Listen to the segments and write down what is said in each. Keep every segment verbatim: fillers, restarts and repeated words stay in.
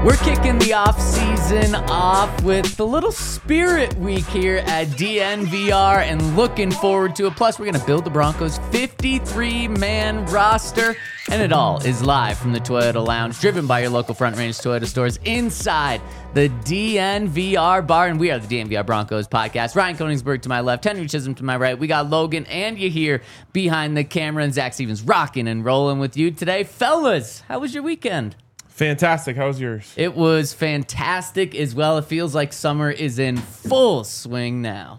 We're kicking the off season off with the little Spirit Week here at D N V R and looking forward to it. Plus, we're going to build the Broncos' fifty-three man roster. And it all is live from the Toyota Lounge, driven by your local Front Range Toyota stores inside the D N V R bar. And we are the D N V R Broncos podcast. Ryan Koenigsberg to my left, Henry Chisholm to my right. We got Logan and you here behind the camera, and Zach Stevens rocking and rolling with you today. Fellas, how was your weekend? Fantastic. How was yours? It was fantastic as well. It feels like summer is in full swing now.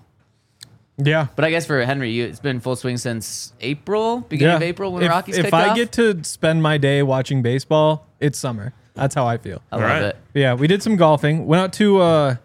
Yeah. But I guess for Henry, you, it's been full swing since April, beginning yeah. of April when if, Rockies If kicked I off. get to spend my day watching baseball, it's summer. That's how I feel. I love right. it. Yeah, we did some golfing. Went out to uh,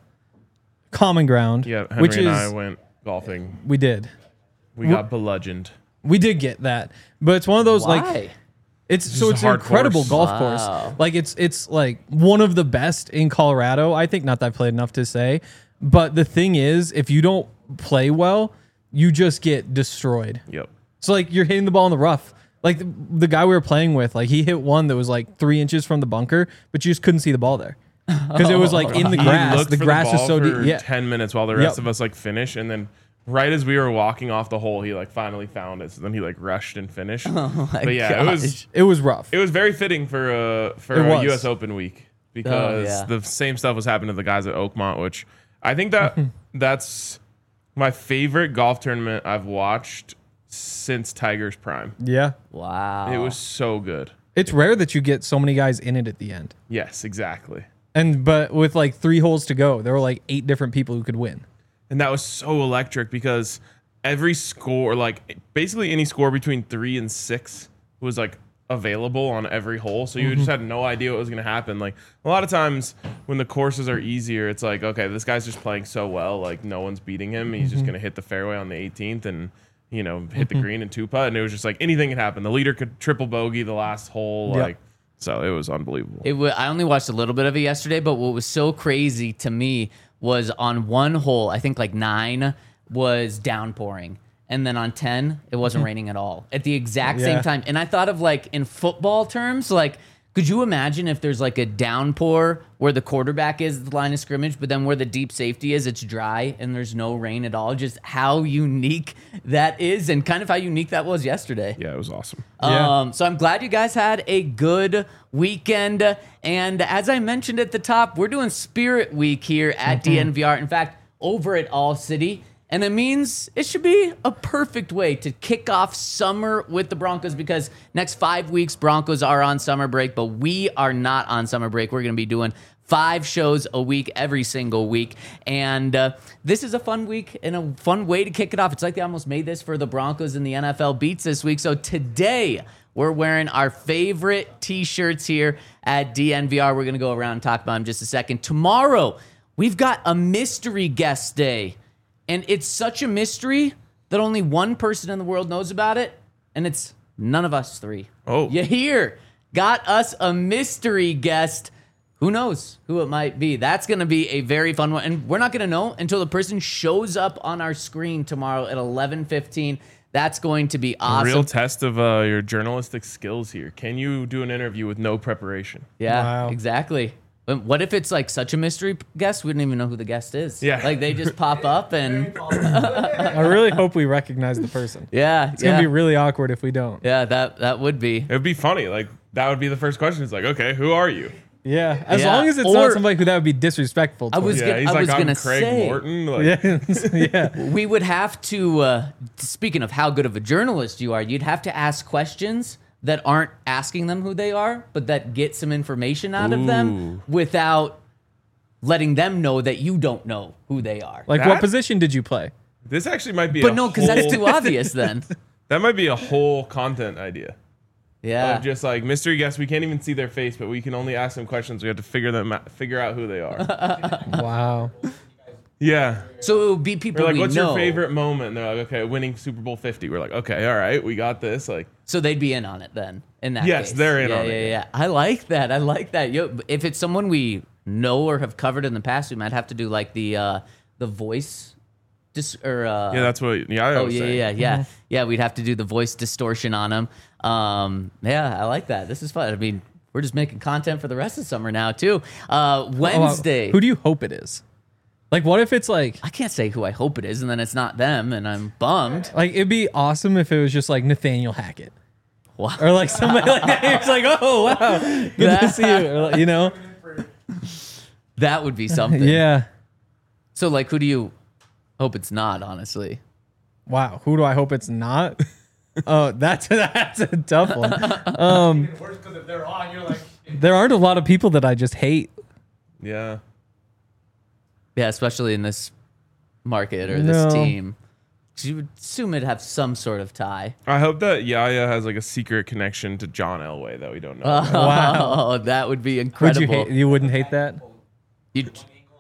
Common Ground. Yeah, Henry which and is, I went golfing. We did. We got bludgeoned. We did get that. But it's one of those Why? like... It's Just so a it's an hard incredible course. golf Wow. course. Like it's it's like one of the best in Colorado. I think not that I've played enough to say, but the thing is, if you don't play well, you just get destroyed. Yep. So like you're hitting the ball in the rough. Like the, the guy we were playing with, like he hit one that was like three inches from the bunker, but you just couldn't see the ball there because it was like in the He grass. looked The for grass the is ball so for deep. Yeah, ten minutes while the rest Yep. of us like finished, and then right as we were walking off the hole, he like finally found it. So then he like rushed and finished. Oh my but yeah, gosh. it was it was rough. it was very fitting for uh for It a was. U S Open week because Oh, yeah. the same stuff was happening to the guys at Oakmont, which I think that that's my favorite golf tournament I've watched since Tiger's prime. Yeah, Wow. It was so good. it's rare that you get so many guys in it at the end. Yes, exactly. And but with like three holes to go, there were like eight different people who could win. And that was so electric because every score, like basically any score between three and six was like available on every hole. So you just had no idea what was going to happen. Like a lot of times when the courses are easier, it's like, okay, this guy's just playing so well. Like no one's beating him. He's just going to hit the fairway on the eighteenth and, you know, hit the green and two putt. And it was just like anything could happen. The leader could triple bogey the last hole. Yep. Like, so it was unbelievable. It w- I only watched a little bit of it yesterday, but what was so crazy to me was on one hole, I think like nine, was downpouring. And then on ten, it wasn't raining at all at the exact same Yeah. time. And I thought of like in football terms, like, could you imagine if there's like a downpour where the quarterback is the line of scrimmage, but then where the deep safety is, it's dry and there's no rain at all? Just how unique that is and kind of how unique that was yesterday. Yeah, it was awesome. Yeah. Um, so I'm glad you guys had a good weekend. And as I mentioned at the top, we're doing Spirit Week here at D N V R. In fact, over at All City. And it means it should be a perfect way to kick off summer with the Broncos because next five weeks, Broncos are on summer break, but we are not on summer break. We're going to be doing five shows a week, every single week. And uh, this is a fun week and a fun way to kick it off. It's like they almost made this for the Broncos and the N F L Beats this week. So today, we're wearing our favorite T-shirts here at D N V R. We're going to go around and talk about them in just a second. Tomorrow, we've got a mystery guest day. And it's such a mystery that only one person in the world knows about it, and it's none of us three. Oh. You hear? Got us a mystery guest. Who knows who it might be? That's going to be a very fun one. And we're not going to know until the person shows up on our screen tomorrow at eleven fifteen. That's going to be awesome. Real test of uh, your journalistic skills here. Can you do an interview with no preparation? Yeah, Wow. exactly. But what if it's like such a mystery guest, we don't even know who the guest is? Yeah. Like they just pop up and I really hope we recognize the person. yeah, It's yeah. gonna be really awkward if we don't. yeah, that that would be. It would be funny. Like that would be the first question. It's like, okay, who are you? Yeah, as Yeah. long as it's Or- not somebody who that would be disrespectful. I was towards. Yeah, gonna- he's I like, was I'm gonna Craig say- Morton. Like, yeah, yeah. We would have to, uh, speaking of how good of a journalist you are, you'd have to ask questions that aren't asking them who they are, but that get some information out of them Ooh. without letting them know that you don't know who they are. Like, That- what position did you play? This actually might be. but a no, because that's whole- too obvious then. That might be a whole content idea. Yeah. Of just like mystery guests, we can't even see their face, but we can only ask them questions. We have to figure them out, figure out who they are. Wow. Uh, Yeah. So it would be people We're like, we what's know. your favorite moment? And they're like, okay, winning Super Bowl fifty. We're like, okay, all right, we got this. Like, So they'd be in on it then. In that Yes, case. they're in yeah, on yeah, it. Yeah, yeah. I like that. I like that. Yo, if it's someone we know or have covered in the past, we might have to do like the uh, the voice, dis- or uh, yeah, that's what. Yeah, I oh was yeah, saying. yeah, yeah, yeah. We'd have to do the voice distortion on them. Um, yeah, I like that. This is fun. I mean, we're just making content for the rest of summer now too. Uh, Wednesday. Oh, who do you hope it is? Like, what if it's like, I can't say who I hope it is, and then it's not them, and I'm bummed. like it'd be awesome if it was just like Nathaniel Hackett Wow. or like somebody like that. It's like, oh wow, good That- to see you. Or, like, you know? That would be something. Yeah. So, like, who do you hope it's not, honestly? Wow. Who do I hope it's not? Oh, that's that's a tough one. Um, Worse because if they're on, you're like, there aren't a lot of people that I just hate. Yeah. Yeah, especially in this market or this No. team. 'Cause you would assume it'd have some sort of tie. I hope that Yaya has like a secret connection to John Elway that we don't know. Oh, about. that would be Would incredible. you hate? You wouldn't hate that? You'd-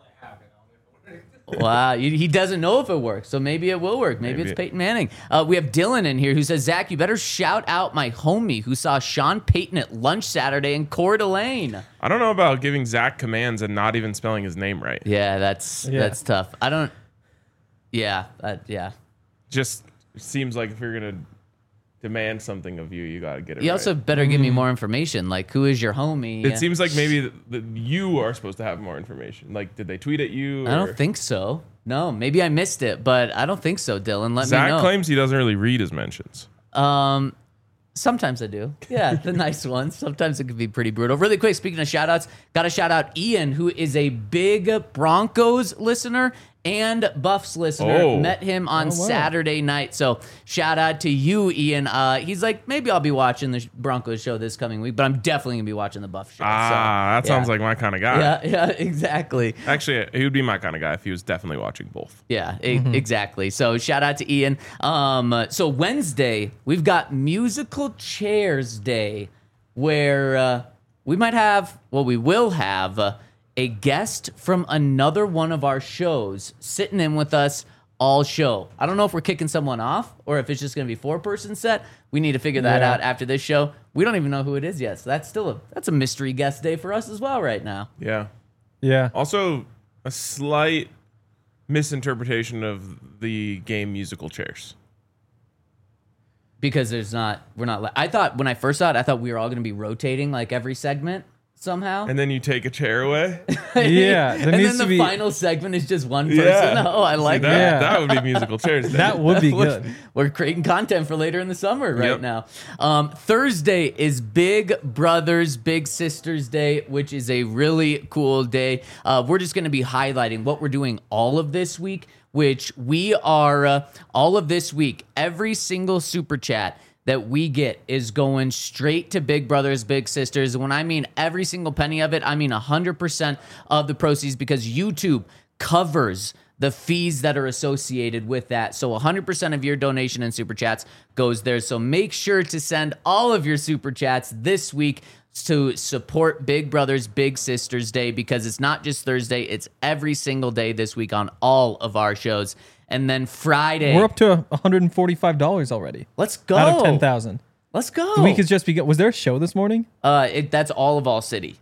Wow, you- he doesn't know if it works, so maybe it will work. Maybe, Maybe. it's Peyton Manning. Uh, we have Dylan in here who says, Zach, you better shout out my homie who saw Sean Payton at lunch Saturday in Coeur d'Alene. I don't know about giving Zach commands and not even spelling his name right. Yeah, that's Yeah. that's tough. I don't. Yeah, that, yeah. Just seems like if you're gonna demand something of you, you gotta get it You right. also better give me more information. Like, who is your homie? It seems like maybe th- th- you are supposed to have more information. Like, did they tweet at you? I or- don't think so. No, maybe I missed it, but I don't think so, Dylan. Let me Zach know. claims he doesn't really read his mentions. Um, sometimes I do. Yeah, the nice ones. Sometimes it can be pretty brutal. Really quick, speaking of shout outs, got to shout out Ian, who is a big Broncos listener and Buffs listener. Oh. Met him on wow. Saturday night. So shout out to you, Ian. Uh, he's like, maybe I'll be watching the Broncos show this coming week, but I'm definitely going to be watching the Buffs show. Ah, so, that sounds yeah. like my kind of guy. Yeah, yeah, exactly. Actually, he would be my kind of guy if he was definitely watching both. Yeah, e- exactly. So shout out to Ian. Um, so Wednesday, we've got Musical Chairs Day, where uh, we might have, well, we will have uh, a guest from another one of our shows sitting in with us all show. I don't know if we're kicking someone off or if it's just going to be four-person set. We need to figure that Yeah. out after this show. We don't even know who it is yet, so that's still a that's a mystery guest day for us as well right now. Yeah. Yeah. Also, a slight misinterpretation of the game musical chairs. Because there's not, we're not, li- I thought when I first saw it, I thought we were all going to be rotating like every segment somehow. And then you take a chair away. Yeah, there and needs then the to be- final segment is just one person. Yeah. Oh, I See, like that. that. Yeah. That would be musical chairs. That would be We're- good. We're creating content for later in the summer right Yep. now. Um, Thursday is Big Brothers Big Sisters Day, which is a really cool day. Uh, we're just going to be highlighting what we're doing all of this week, which we are uh, all of this week. Every single super chat that we get is going straight to Big Brothers Big Sisters. And when I mean every single penny of it, I mean one hundred percent of the proceeds, because YouTube covers the fees that are associated with that. So one hundred percent of your donation and super chats goes there. So make sure to send all of your super chats this week to support Big Brothers Big Sisters Day, because it's not just Thursday, it's every single day this week on all of our shows. And then Friday, We're up to one hundred forty-five dollars already let's go. out of ten thousand. Let's go. The week has just begun. Was there a show this morning? uh, it, that's all of All City.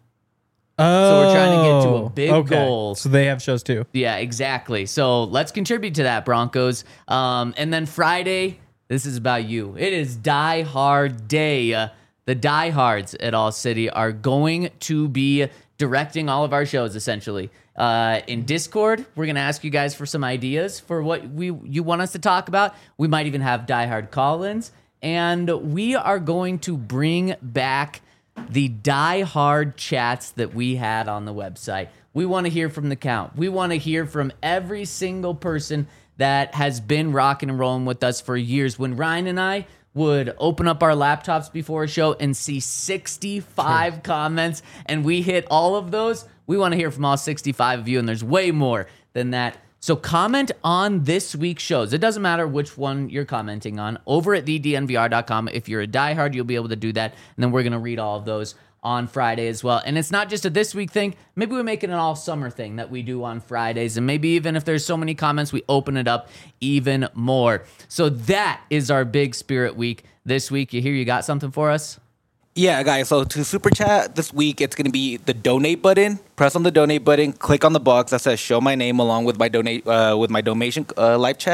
Oh, we're trying to get to a big goal. So they have shows too. Yeah, exactly. So let's contribute to that, Broncos. Um, and then Friday, this is about you. It is Die Hard Day. Uh, the Die Hards at All City are going to be directing all of our shows, essentially. Uh, in Discord, we're going to ask you guys for some ideas for what we you want us to talk about. We might even have Die Hard call-ins. And we are going to bring back the Die Hard chats that we had on the website. We want to hear from the count. We want to hear from every single person that has been rocking and rolling with us for years. When Ryan and I would open up our laptops before a show and see sixty-five comments, and we hit all of those, we want to hear from all sixty-five of you, and there's way more than that. So comment on this week's shows. It doesn't matter which one you're commenting on. Over at the D N V R dot com, if you're a diehard, you'll be able to do that. And then we're going to read all of those on Friday as well. And it's not just a this week thing. Maybe we make it an all summer thing that we do on Fridays. And maybe even if there's so many comments, we open it up even more. So that is our big spirit week this week. You hear you got something for us? Yeah, guys, so to super chat this week, it's going to be the donate button. Press on the donate button, click on the box that says show my name along with my donate uh, with my donation uh, live chat,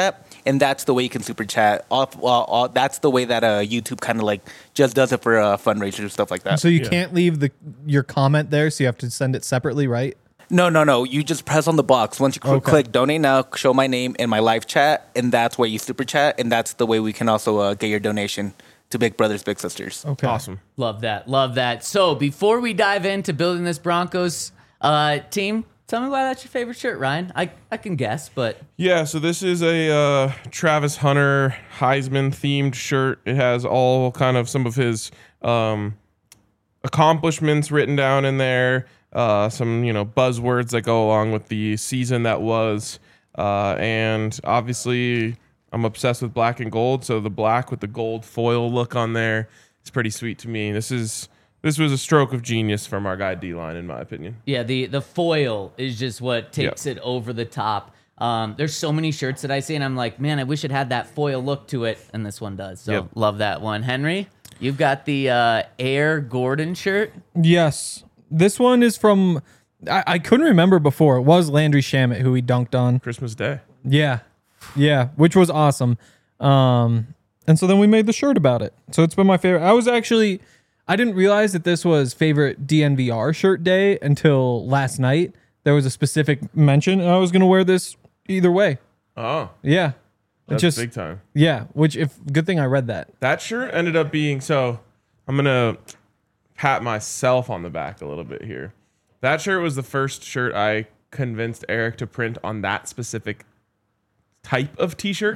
and that's the way you can super chat. Off, uh, all, that's the way that uh, YouTube kind of like just does it for uh, fundraisers stuff like that. So you Yeah. can't leave the your comment there, so you have to send it separately, right? No, no, no. You just press on the box. Once you cl- Okay. click donate now, show my name and my live chat, and that's where you super chat, and that's the way we can also uh, get your donation to Big Brothers Big Sisters. Okay. Awesome. Love that. Love that. So before we dive into building this Broncos uh, team, tell me why that's your favorite shirt, Ryan. I, I can guess, but Yeah, so this is a uh, Travis Hunter Heisman themed shirt. It has all kind of some of his um, accomplishments written down in there, uh, some you know buzzwords that go along with the season that was, uh, and obviously I'm obsessed with black and gold. So the black with the gold foil look on there is pretty sweet to me. This is this was a stroke of genius from our guy D-Line, in my opinion. yeah, the, the foil is just what takes it over the top. Um, there's so many shirts that I see, and I'm like, man, I wish it had that foil look to it, and this one does. So Yep. love that one. Henry, you've got the uh, Air Gordon shirt. Yes. This one is from, I, I couldn't remember before. It was Landry Shamet who he dunked on. Christmas Day. Yeah. Yeah. Which was awesome. Um, and so then we made the shirt about it. So it's been my favorite. I was actually, I didn't realize that this was favorite D N V R shirt day until last night. There was a specific mention, and I was going to wear this either way. Oh, Yeah. that's Just, big time. yeah. Which, if, good thing I read that. That shirt ended up being so. I'm gonna pat myself on the back a little bit here. That shirt was the first shirt I convinced Eric to print on that specific type of T-shirt,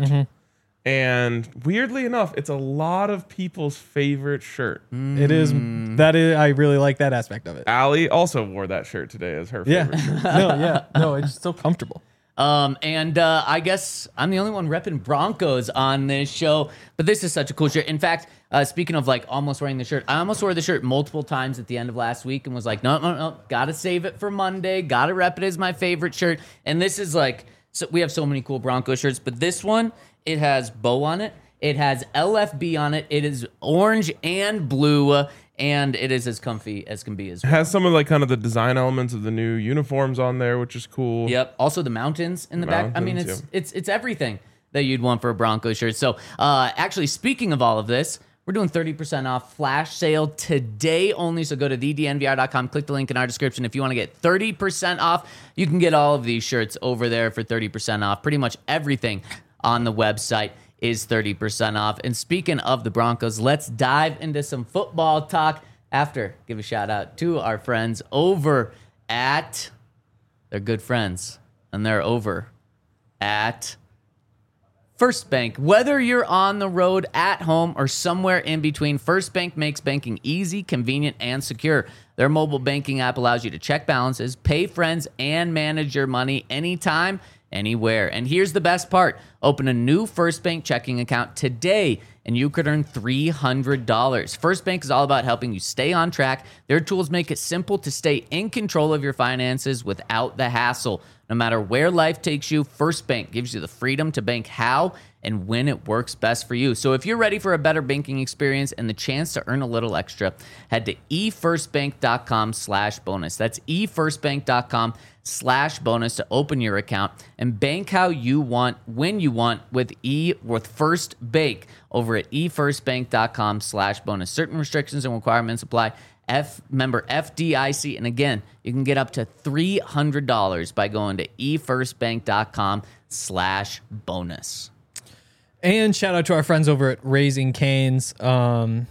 and weirdly enough, it's a lot of people's favorite shirt. It is, that is, I really like that aspect of it. Allie also wore that shirt today as her Yeah. favorite shirt. no, yeah. No, it's so comfortable. Um, and uh, I guess I'm the only one repping Broncos on this show, but this is such a cool shirt. In fact, uh, speaking of like almost wearing the shirt, I almost wore the shirt multiple times at the end of last week and was like, no, no, no, gotta save it for Monday, gotta rep it as my favorite shirt. And this is like, so we have so many cool Broncos shirts, but this one, it has Bo on it, it has L F B on it, it is orange and blue, and it is as comfy as can be as It well. has some of like kind of the design elements of the new uniforms on there, which is cool. Yep. Also the mountains in the back. I mean, it's Mountains, it's it's everything that you'd want for a Broncos shirt. So, uh, actually, speaking of all of this, we're doing thirty percent off flash sale today only. So go to the d n v r dot com, click the link in our description if you want to get thirty percent off. You can get all of these shirts over there for thirty percent off. Pretty much everything on the website is thirty percent off. And speaking of the Broncos, let's dive into some football talk. After, give a shout out to our friends over at, they're good friends, and they're over at First Bank. Whether you're on the road, at home, or somewhere in between, First Bank makes banking easy, convenient, and secure. Their mobile banking app allows you to check balances, pay friends, and manage your money anytime, anywhere. And here's the best part. Open a new First Bank checking account today and you could earn three hundred dollars. First Bank is all about helping you stay on track. Their tools make it simple to stay in control of your finances without the hassle. No matter where life takes you, First Bank gives you the freedom to bank how and when it works best for you. So if you're ready for a better banking experience and the chance to earn a little extra, head to e first bank dot com slash bonus. That's e first bank dot com slash bonus to open your account and bank how you want, when you want with E with First Bank over at e first bank dot com slash bonus. Certain restrictions and requirements apply. F member F D I C, and again, you can get up to three hundred dollars by going to e first bank dot com slash bonus. And shout out to our friends over at Raising Cane's. Um,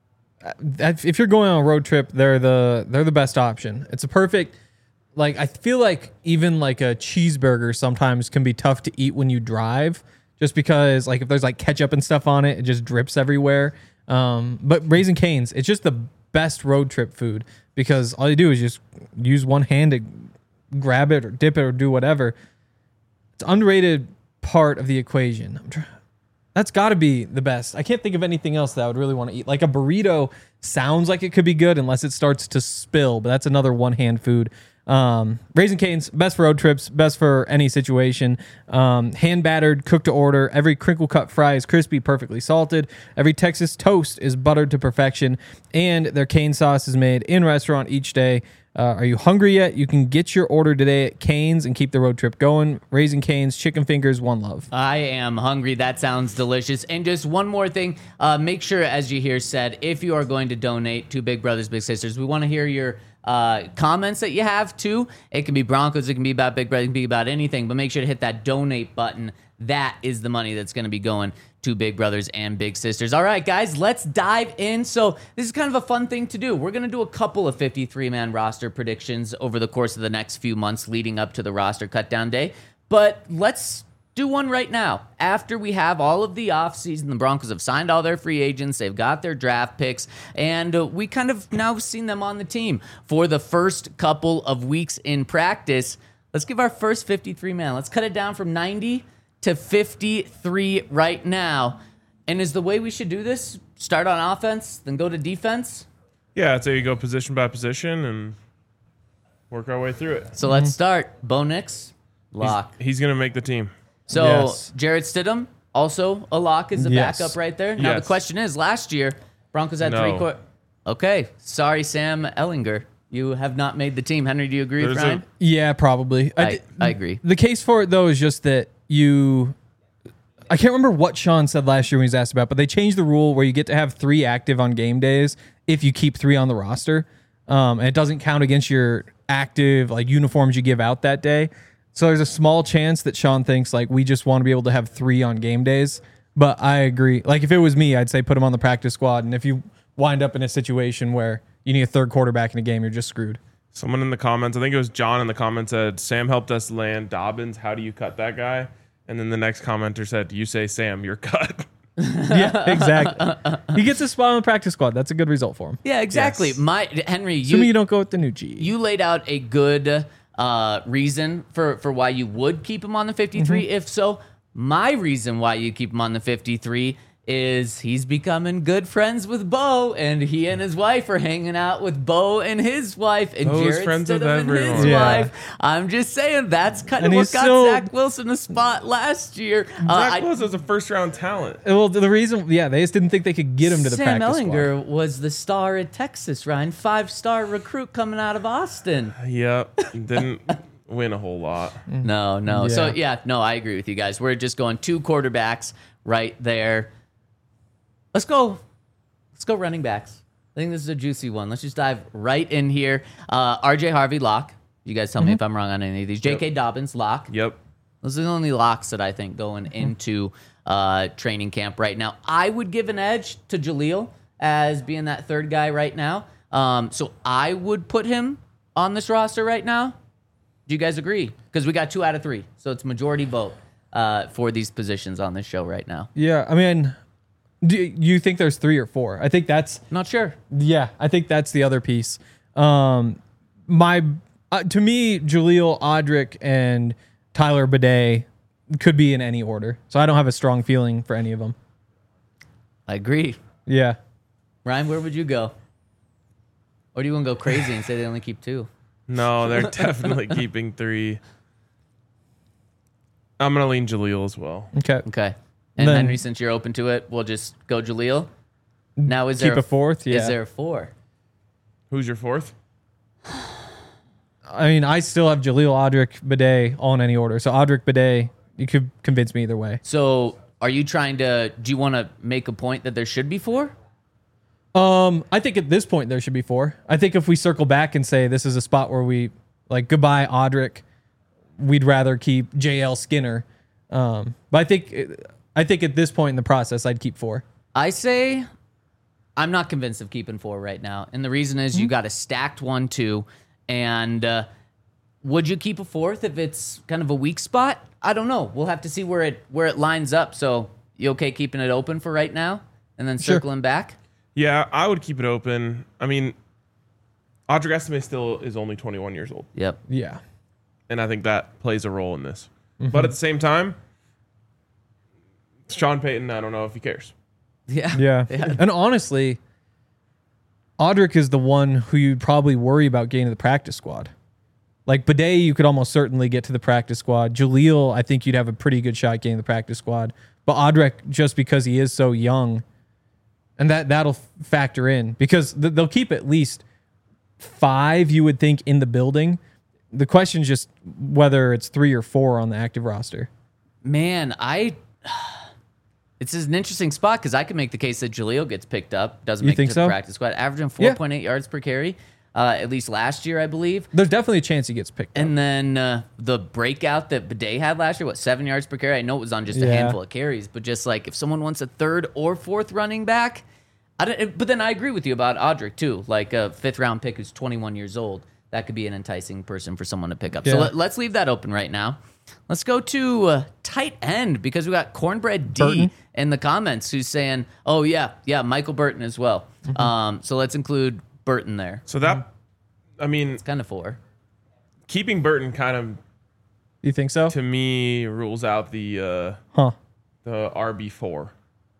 that- if you're going on a road trip, they're the they're the best option. It's a perfect, like, I feel like even like a cheeseburger sometimes can be tough to eat when you drive, just because like if there's like ketchup and stuff on it, it just drips everywhere. Um, but Raising Cane's, it's just the best road trip food because all you do is just use one hand to grab it or dip it or do whatever. It's an underrated part of the equation. I'm trying. That's got to be the best. I can't think of anything else that I would really want to eat. Like a burrito sounds like it could be good unless it starts to spill, but that's another one-hand food. Um, Raising Cane's, best for road trips, best for any situation. Um, hand-battered, cooked to order. Every crinkle-cut fry is crispy, perfectly salted. Every Texas toast is buttered to perfection. And their cane sauce is made in restaurant each day. Uh, are you hungry yet? You can get your order today at Cane's and keep the road trip going. Raising Cane's, chicken fingers, one love. I am hungry. That sounds delicious. And just one more thing. Uh, make sure, as you hear said, if you are going to donate to Big Brothers Big Sisters, we want to hear your uh, comments that you have too. It can be Broncos. It can be about Big Brother. It can be about anything. But make sure to hit that donate button. That is the money that's going to be going to Big Brothers and Big Sisters. All right, guys, let's dive in. So this is kind of a fun thing to do. We're going to do a couple of fifty-three man roster predictions over the course of the next few months leading up to the roster cutdown day. But let's do one right now. After we have all of the offseason, the Broncos have signed all their free agents. They've got their draft picks. And uh, we kind of now seen them on the team for the first couple of weeks in practice. Let's give our first fifty-three man. Let's cut it down from ninety to fifty-three right now. And is the way we should do this start on offense, then go to defense? Yeah, I'd say you go position by position and work our way through it. So let's start. Bo Nix, lock. He's, he's going to make the team. So Yes. Jared Stidham, also a lock, is the Yes. backup right there. Now Yes. the question is, last year, Broncos had No. three quarter. Okay, sorry, Sam Ellinger. You have not made the team. Henry, do you agree with There's a- Ryan? Yeah, probably. I, di- I agree. The case for it, though, is just that you. I can't remember what Sean said last year when he was asked about, but they changed the rule where you get to have three active on game days if you keep three on the roster. Um, and it doesn't count against your active like uniforms you give out that day. So there's a small chance that Sean thinks like we just want to be able to have three on game days. But I agree. Like if it was me, I'd say put him on the practice squad. And if you wind up in a situation where you need a third quarterback in a game, you're just screwed. Someone in the comments, I think it was John in the comments, said, Sam helped us land Dobbins. How do you cut that guy? And then the next commenter said, you say, Sam, you're cut. Yeah, exactly. He gets a spot on the practice squad. That's a good result for him. Yeah, exactly. Yes. My Henry, you Assuming you don't go with the new G. you laid out a good uh, reason for, for why you would keep him on the fifty-three. Mm-hmm. If so, my reason why you keep him on the fifty-three is he's becoming good friends with Bo, and he and his wife are hanging out with Bo and his wife, and Bo's Jared friends with Stidham and his everyone. Yeah. wife. I'm just saying that's kind And of what he's got still- Zach Wilson a spot last year. Uh, Zach I- Wilson was a first round talent. Well, the reason, yeah, they just didn't think they could get him to the Sam practice Ellinger squad. was the star at Texas, Ryan, five-star recruit coming out of Austin. Yep. Didn't win a whole lot. No, no. So Yeah. yeah, no, I agree with you guys. We're just going two quarterbacks right there. Let's go. Let's go running backs. I think this is a juicy one. Let's just dive right in here. Uh, R J Harvey, lock. You guys tell me if I'm wrong on any of these. J K Dobbins, lock. Yep. Those are the only locks that I think going into uh, training camp right now. I would give an edge to Jaleel as being that third guy right now. Um, so I would put him on this roster right now. Do you guys agree? Because we got two out of three. So it's majority vote uh, for these positions on this show right now. Yeah, I mean, do you think there's three or four? I think that's, Not sure. yeah, I think that's the other piece. Um, my, uh, to me, Jaleel, Audric, and Tyler Bidet could be in any order. So I don't have a strong feeling for any of them. I agree. Yeah. Ryan, where would you go? Or do you want to go crazy and say they only keep two? No, they're definitely keeping three. I'm going to lean Jaleel as well. Okay. Okay. And Then- Henry, since you're open to it, we'll just go Jaleel. Now is Keep there a fourth? Yeah. Is there a four? Who's your fourth? I mean, I still have Jaleel, Audric, Bidet all in any order. So Audric, Bidet, you could convince me either way. So are you trying to? Do you want to make a point that there should be four? Um, I think at this point there should be four. I think if we circle back and say this is a spot where we like goodbye Audric, we'd rather keep J L Skinner. Um, but I think I think at this point in the process, I'd keep four. I say I'm not convinced of keeping four right now, and the reason is you got a stacked one, two, and uh, would you keep a fourth if it's kind of a weak spot? I don't know. We'll have to see where it where it lines up. So you okay keeping it open for right now, and then Sure. circling back? Yeah, I would keep it open. I mean, Audric Estime still is only twenty-one years old, Yep. Yeah. and I think that plays a role in this. But at the same time, Sean Payton, I don't know if he cares. Yeah. Yeah. And honestly, Audric is the one who you'd probably worry about getting to the practice squad. Like Bidet, you could almost certainly get to the practice squad. Jaleel, I think you'd have a pretty good shot getting to the practice squad. But Audric, just because he is so young, and that, that'll factor in because th- they'll keep at least five you would think in the building. The question is just whether it's three or four on the active roster. Man, I. It's an interesting spot because I can make the case that Jaleel gets picked up, doesn't You make it think to so? the practice squad, averaging four point eight yards per carry, uh, at least last year, I believe. There's definitely a chance he gets picked up. And then uh, the breakout that Bidet had last year, what, seven yards per carry? I know it was on just a Yeah. handful of carries, but just like if someone wants a third or fourth running back, I don't. But then I agree with you about Audric too. Like a fifth round pick who's twenty-one years old, that could be an enticing person for someone to pick up. So Yeah. let, let's leave that open right now. Let's go to uh, tight end because we got Cornbread D Burton. in the comments who's saying, "Oh yeah, yeah, Michael Burton as well." Mm-hmm. Um, so let's include Burton there. So that, I mean, Kind of four. keeping Burton kind of You think so? to me rules out the uh, Huh. the R B four.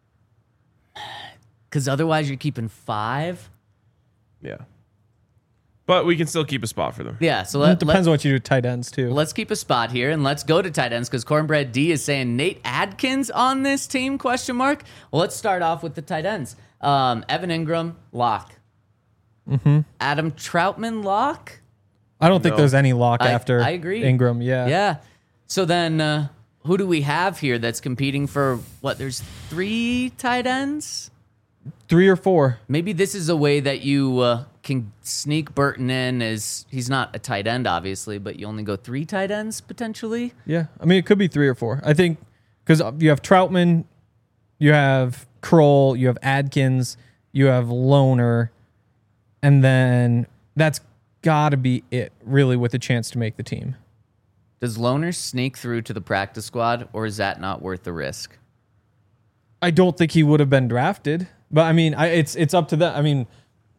Because otherwise, you're keeping five. Yeah, but we can still keep a spot for them. Yeah. So It let, depends let, on what you do with tight ends, too. let's keep a spot here and let's go to tight ends because Cornbread D is saying Nate Adkins on this team? Question mark. Well, let's start off with the tight ends. Um, Evan Ingram, lock. Mm-hmm. Adam Troutman, lock. I don't think No. there's any lock I- after I agree. Ingram. Yeah. Yeah. So then, uh, who do we have here that's competing for what? There's three tight ends. Three or four. Maybe this is a way that you uh, can sneak Burton in as he's not a tight end, obviously, but you only go three tight ends potentially. Yeah. I mean, it could be three or four. I think because you have Troutman, you have Kroll, you have Adkins, you have Loner, and then that's got to be it, really, with a chance to make the team. Does Loner sneak through to the practice squad, or is that not worth the risk? I don't think he would have been drafted, but I mean, I, it's it's up to them. I mean,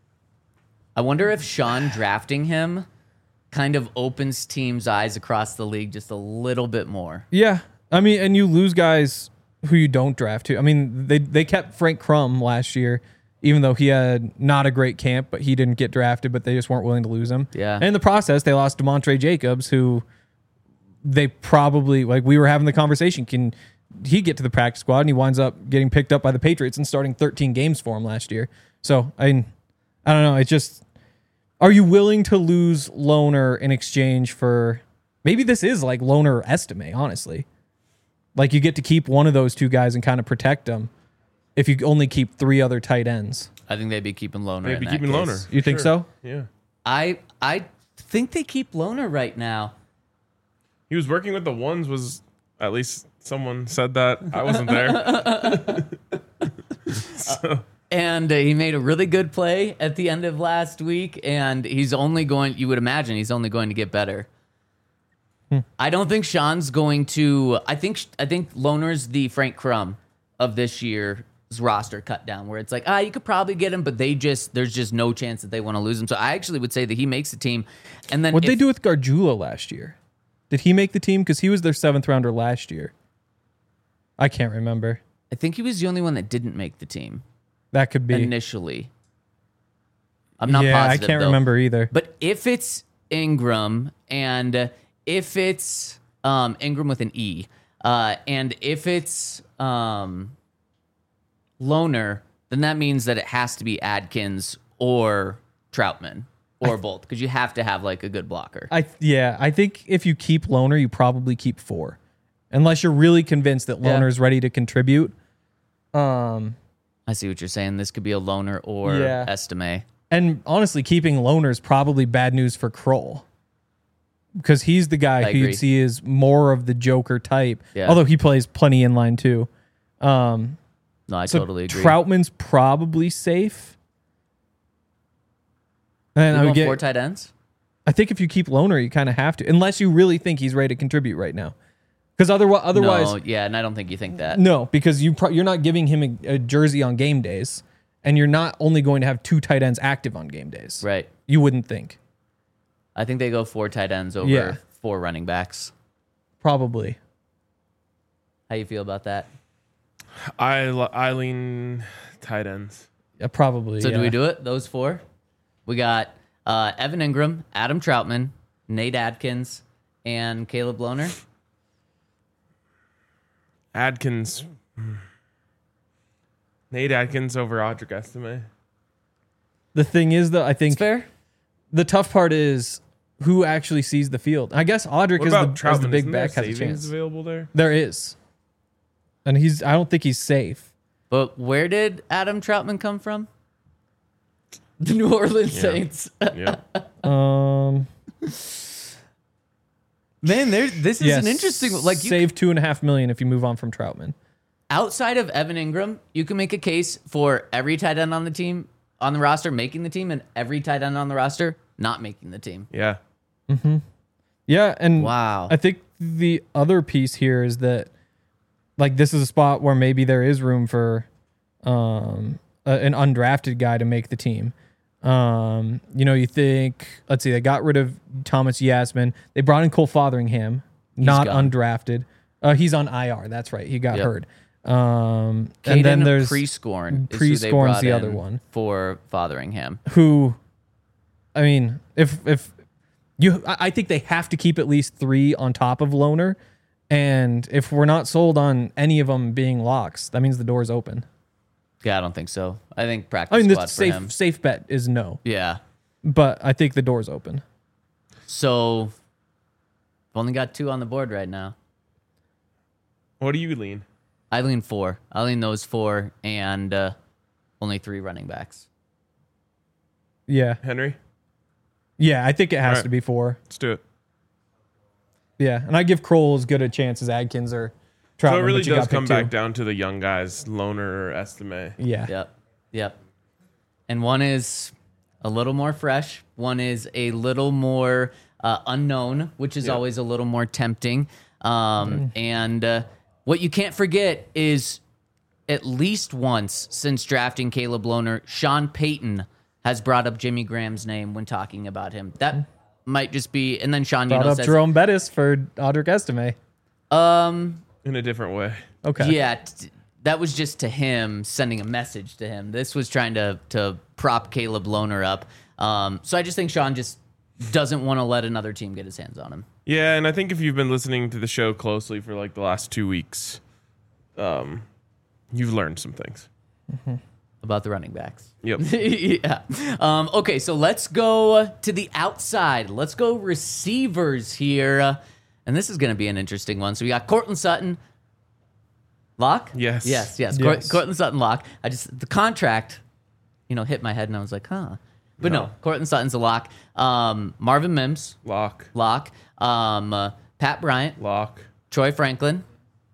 I wonder if Sean drafting him kind of opens teams' eyes across the league just a little bit more. yeah. I mean, and you lose guys who you don't draft to. I mean, they they kept Frank Crum last year, even though he had not a great camp, but he didn't get drafted, but they just weren't willing to lose him. Yeah. And in the process, they lost DeMontre Jacobs, who they probably, like we were having the conversation, can he get to the practice squad? And he winds up getting picked up by the Patriots and starting thirteen games for him last year. So, I mean, I don't know. It's just, are you willing to lose Loner in exchange for, maybe this is like Loner or Estime, honestly. Like you get to keep one of those two guys and kind of protect them if you only keep three other tight ends. I think they'd be keeping Loner. Maybe in that keeping case. Loner. You think so? Yeah. I I think they keep Loner right now. He was working with the ones. Was at least someone said that. I wasn't there. so, And uh, he made a really good play at the end of last week, and he's only going, you would imagine, he's only going to get better. Hmm. I don't think Sean's going to, I think I think Loner's the Frank Crum of this year's roster cut down, where it's like, ah, you could probably get him, but they just, there's just no chance that they want to lose him. So I actually would say that he makes the team. And then What'd they if- do with Gargiulo last year? Did he make the team? Because he was their seventh rounder last year. I can't remember. I think he was the only one that didn't make the team That could be. initially. I'm not yeah, positive, I can't though. remember either. But if it's Ingram and if it's um, Ingram with an E, uh, and if it's um, Loner, then that means that it has to be Adkins or Troutman or both, because you have to have like a good blocker. I yeah, I think if you keep Loner, you probably keep four, unless you're really convinced that Yeah. Loner's ready to contribute. Um, I see what you're saying. This could be a Loner or Yeah. Estime. and honestly, keeping Loner is probably bad news for Kroll, because he's the guy I who agree. you'd see is more of the Joker type. Yeah. Although he plays plenty in line too. Um, No, I so totally agree. Troutman's probably safe. And You I would going get. four tight ends? I think if you keep Loner, you kind of have to, unless you really think he's ready to contribute right now. Because otherwise, otherwise, no, yeah, and I don't think you think that. no, because you pro- you're not giving him a, a jersey on game days, and you're not only going to have two tight ends active on game days. Right. You wouldn't think. I think they go four tight ends over Yeah. four running backs. Probably. How you feel about that? I li- I lean tight ends. Yeah, probably. So yeah. do we do it? Those four? We got uh, Evan Ingram, Adam Troutman, Nate Adkins, and Caleb Loner. Adkins. Nate Adkins over Audric Estime. The thing is, though, I It's think fair. the tough part is who actually sees the field. I guess Audric What is the, about is Troutman? the big Isn't there back has a savings chance. available there? There is, and he's. I don't think he's safe. But where did Adam Troutman come from? The New Orleans Yeah. Saints. Yeah. Um, Man, there. This is yes, an interesting. Like you, save two and a half million if you move on from Troutman. outside of Evan Ingram, you can make a case for every tight end on the team on the roster making the team, and every tight end on the roster not making the team. Yeah. Yeah, and Wow. I think the other piece here is that, like, this is a spot where maybe there is room for um, a, an undrafted guy to make the team. Um, you know, you think, let's see, they got rid of Thomas Yasmin. They brought in Cole Fotheringham, not gone. undrafted. Uh, he's on I R. That's right. He got Yep. hurt. Um, Caden and then there's Prescorn. is who they Prescorn's brought the in other one. for Fotheringham. who, I mean, if if you, I I think they have to keep at least three on top of Loner, and if we're not sold on any of them being locks, that means the door's open. Yeah, I don't think so. I think practice I mean, squad the for safe him. safe bet is no, Yeah. but I think the door's open. So, I've only got two on the board right now. What do you lean? I lean four. I lean those four and uh, only three running backs. Yeah, Henry? yeah, I think it has Alright. to be four. Let's do it. Yeah, and I give Kroll as good a chance as Adkins or Troutman. So it really but you does got come pick back two. down to the young guys, Loner or Estime. Yeah. Yep. Yep. And one is a little more fresh. One is a little more uh, unknown, which is Yep. always a little more tempting. Um, And uh, what you can't forget is at least once since drafting Caleb Loner, Sean Payton has brought up Jimmy Graham's name when talking about him. That might just be, and then Sean, you Brought know, up says, Jerome Bettis for Audric Estime. um, In a different way. Okay. yeah, t- that was just to him sending a message to him. This was trying to to prop Caleb Loner up. Um, so I just think Sean just doesn't want to let another team get his hands on him. Yeah, and I think if you've been listening to the show closely for like the last two weeks, um, you've learned some things. About the running backs. Yep. yeah. Um, okay, so let's go to the outside. Let's go receivers here. Uh, and this is going to be an interesting one. So we got Cortland Sutton. Lock? Yes. Yes, yes. Yes. Cort- Cortland Sutton lock. I just, the contract, you know, hit my head and I was like, huh. But no, No. Cortland Sutton's a lock. Um, Marvin Mims, Lock. lock. Um, uh, Pat Bryant, Lock. Troy Franklin,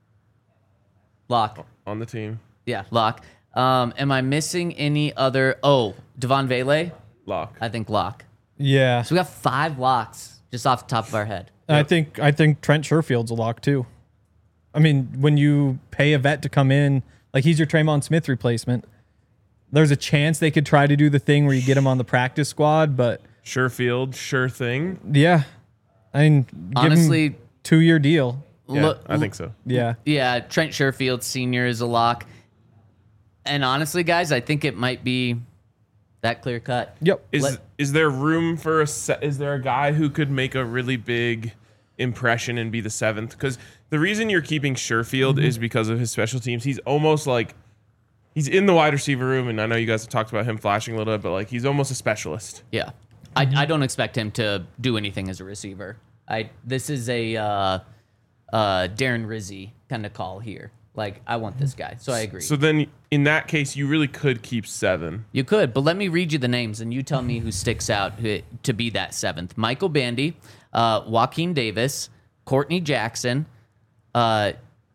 lock. On the team. Yeah, lock. Um, am I missing any other? Oh, Devon Vele, Lock. I think lock. Yeah. So we got five locks just off the top of our head. And I think I think Trent Sherfield's a lock too. I mean, when you pay a vet to come in, like he's your Traymon Smith replacement, there's a chance they could try to do the thing where you get him on the practice squad, but Sure field. Sure thing. yeah. I mean, give Honestly, him two year deal. Yeah, look, I think so. Yeah. yeah, Trent Sherfield Senior is a lock. And honestly, guys, I think it might be that clear cut. Yep. Is Let- is there room for a se- is there a guy who could make a really big impression and be the seventh? Because the reason you're keeping Sherfield Mm-hmm. is because of his special teams. He's almost like he's in the wide receiver room, and I know you guys have talked about him flashing a little bit, but like he's almost a specialist. Yeah. I, I don't expect him to do anything as a receiver. I This is a uh, uh, Darren Rizzi kind of call here. Like, I want this guy. So I agree. So then, in that case, you really could keep seven. You could, but let me read you the names, and you tell me who sticks out who, to be that seventh. Michael Bandy, uh, Joaquin Davis, Courtney Jackson, uh,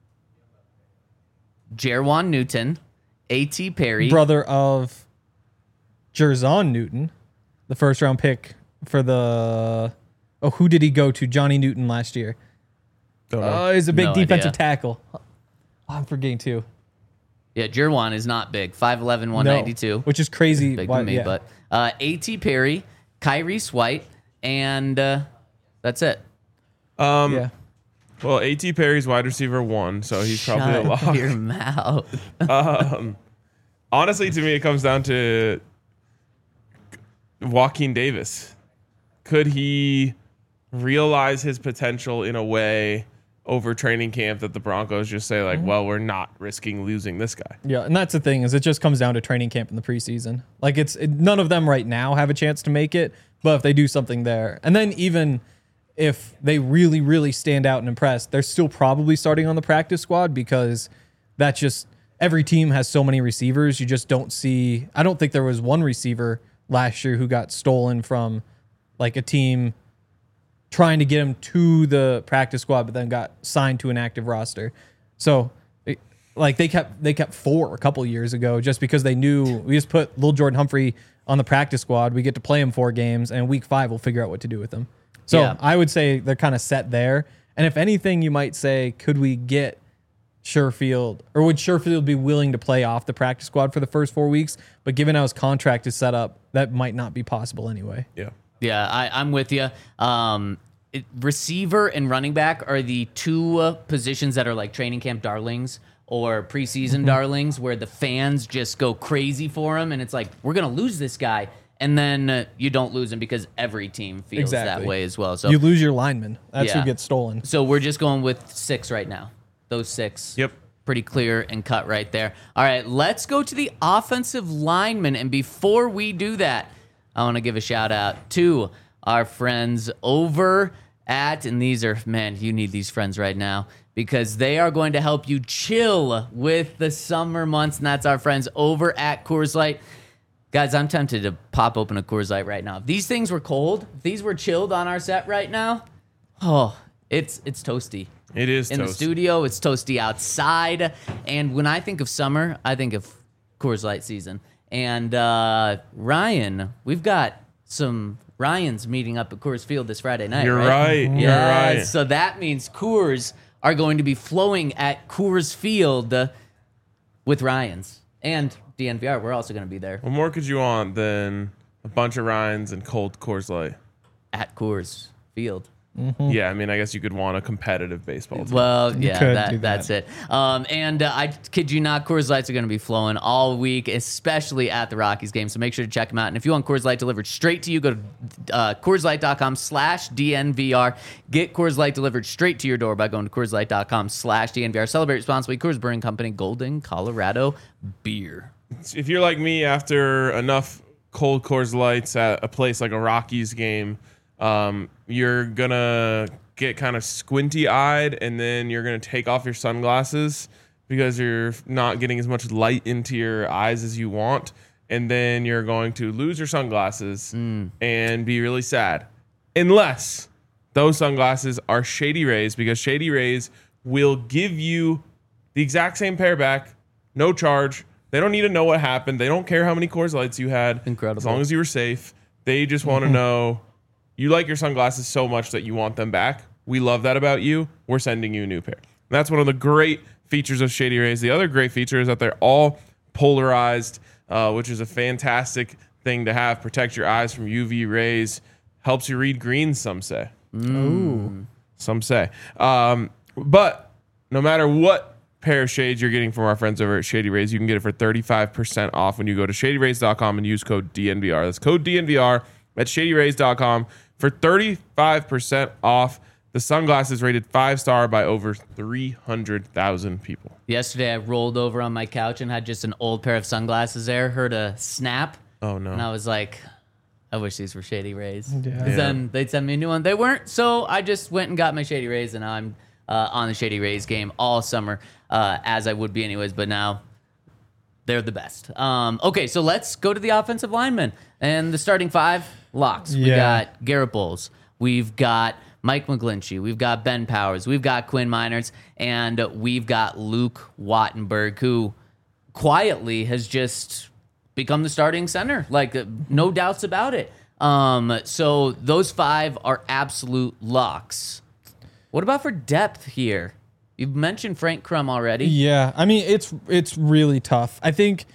Jerwan Newton, A T Perry. Brother of Jerzon Newton, the first round pick for the oh, who did he go to? Johnny Newton last year. Don't know. Oh, he's a big No defensive idea. tackle. Oh, I'm forgetting too. Yeah, Jerwan is not big. five eleven, one ninety-two. No, which is crazy. Big Why- to me, yeah. but uh, A T Perry, Kyrie White, and uh, that's it. um, yeah. Well, A T Perry's wide receiver one, so he's probably a Shut lock. your mouth. Um, honestly, to me, it comes down to Joaquin Davis. Could he realize his potential in a way over training camp that the Broncos just say like, well, we're not risking losing this guy. Yeah, and that's the thing is it just comes down to training camp in the preseason. Like it's it, none of them right now have a chance to make it, but if they do something there, and then even if they really, really stand out and impress, they're still probably starting on the practice squad because that's just every team has so many receivers. You just don't see. I don't think there was one receiver last year who got stolen from like a team trying to get him to the practice squad, but then got signed to an active roster. So, it, like they kept they kept four a couple years ago just because they knew we just put Lil Jordan Humphrey on the practice squad. We get to play him four games, and week five we'll figure out what to do with him. So Yeah. I would say they're kind of set there. And if anything, you might say, could we get Sherfield, or would Sherfield be willing to play off the practice squad for the first four weeks? But given how his contract is set up, that might not be possible anyway. Yeah. Yeah, I, I'm with you. Um, it, receiver and running back are the two uh, positions that are like training camp darlings or preseason Mm-hmm. darlings, where the fans just go crazy for him, and it's like we're gonna lose this guy, and then uh, you don't lose him because every team feels that Exactly. way as well. So, You lose your lineman. That's Yeah. who gets stolen. so we're just going with six right now. Those six. Yep. Pretty clear and cut right there. All right, let's go to the offensive linemen. And before we do that, I want to give a shout out to our friends over at, and these are, man, you need these friends right now because they are going to help you chill with the summer months. And that's our friends over at Coors Light. Guys, I'm tempted to pop open a Coors Light right now. If these things were cold, if these were chilled on our set right now, oh, it's it's toasty. It is In the toast. studio, it's toasty outside. And when I think of summer, I think of Coors Light season. And uh, Ryan, we've got some Ryans meeting up at Coors Field this Friday night. You're right. right. You're Yeah, right. so that means Coors are going to be flowing at Coors Field uh, with Ryans. And D N V R, we're also going to be there What more could you want than a bunch of Ryans and cold Coors Light? at Coors Field. Yeah, I mean, I guess you could want a competitive baseball team. Well, yeah, could that, do that. that's it. Um, and uh, I kid you not, Coors Lights are going to be flowing all week, especially at the Rockies game. So make sure to check them out. And if you want Coors Light delivered straight to you, go to uh, CoorsLight.com slash DNVR. Get Coors Light delivered straight to your door by going to CoorsLight.com slash DNVR. Celebrate responsibly. Coors Brewing Company, Golden, Colorado beer. If you're like me, after enough cold Coors Lights at a place like a Rockies game, um, you're gonna get kind of squinty eyed, and then you're gonna take off your sunglasses because you're not getting as much light into your eyes as you want, and then you're going to lose your sunglasses and be really sad, unless those sunglasses are Shady Rays, because Shady Rays will give you the exact same pair back, no charge. They don't need to know what happened. They don't care how many Coors Lights you had. Incredible. As long as you were safe. They just want to know you like your sunglasses so much that you want them back. We love that about you. We're sending you a new pair. And that's one of the great features of Shady Rays. The other great feature is that they're all polarized, uh, which is a fantastic thing to have. Protect your eyes from U V rays. Helps you read green, some say. Ooh. Some say. Um, but no matter what pair of shades you're getting from our friends over at Shady Rays, you can get it for thirty-five percent off when you go to shady rays dot com and use code D N V R. That's code D N V R at shady rays dot com for thirty-five percent off. The sunglasses rated five star by over three hundred thousand people. Yesterday, I rolled over on my couch and had just an old pair of sunglasses there, heard a snap, Oh, no. and I was like, I wish these were Shady Rays. Yeah. 'Cause then they'd send me a new one. They weren't, so I just went and got my Shady Rays, and now I'm uh, on the Shady Rays game all summer, uh, as I would be anyways, but now they're the best. Um, okay, so let's go to the offensive linemen. And the starting five, locks. We Yeah. got Garrett Bowles. We've got Mike McGlinchey. We've got Ben Powers. We've got Quinn Miners. And we've got Luke Wattenberg, who quietly has just become the starting center. Like, uh, no doubts about it. Um, so those five are absolute locks. What about for depth here? You've mentioned Frank Crum already. Yeah, I mean it's it's really tough. I think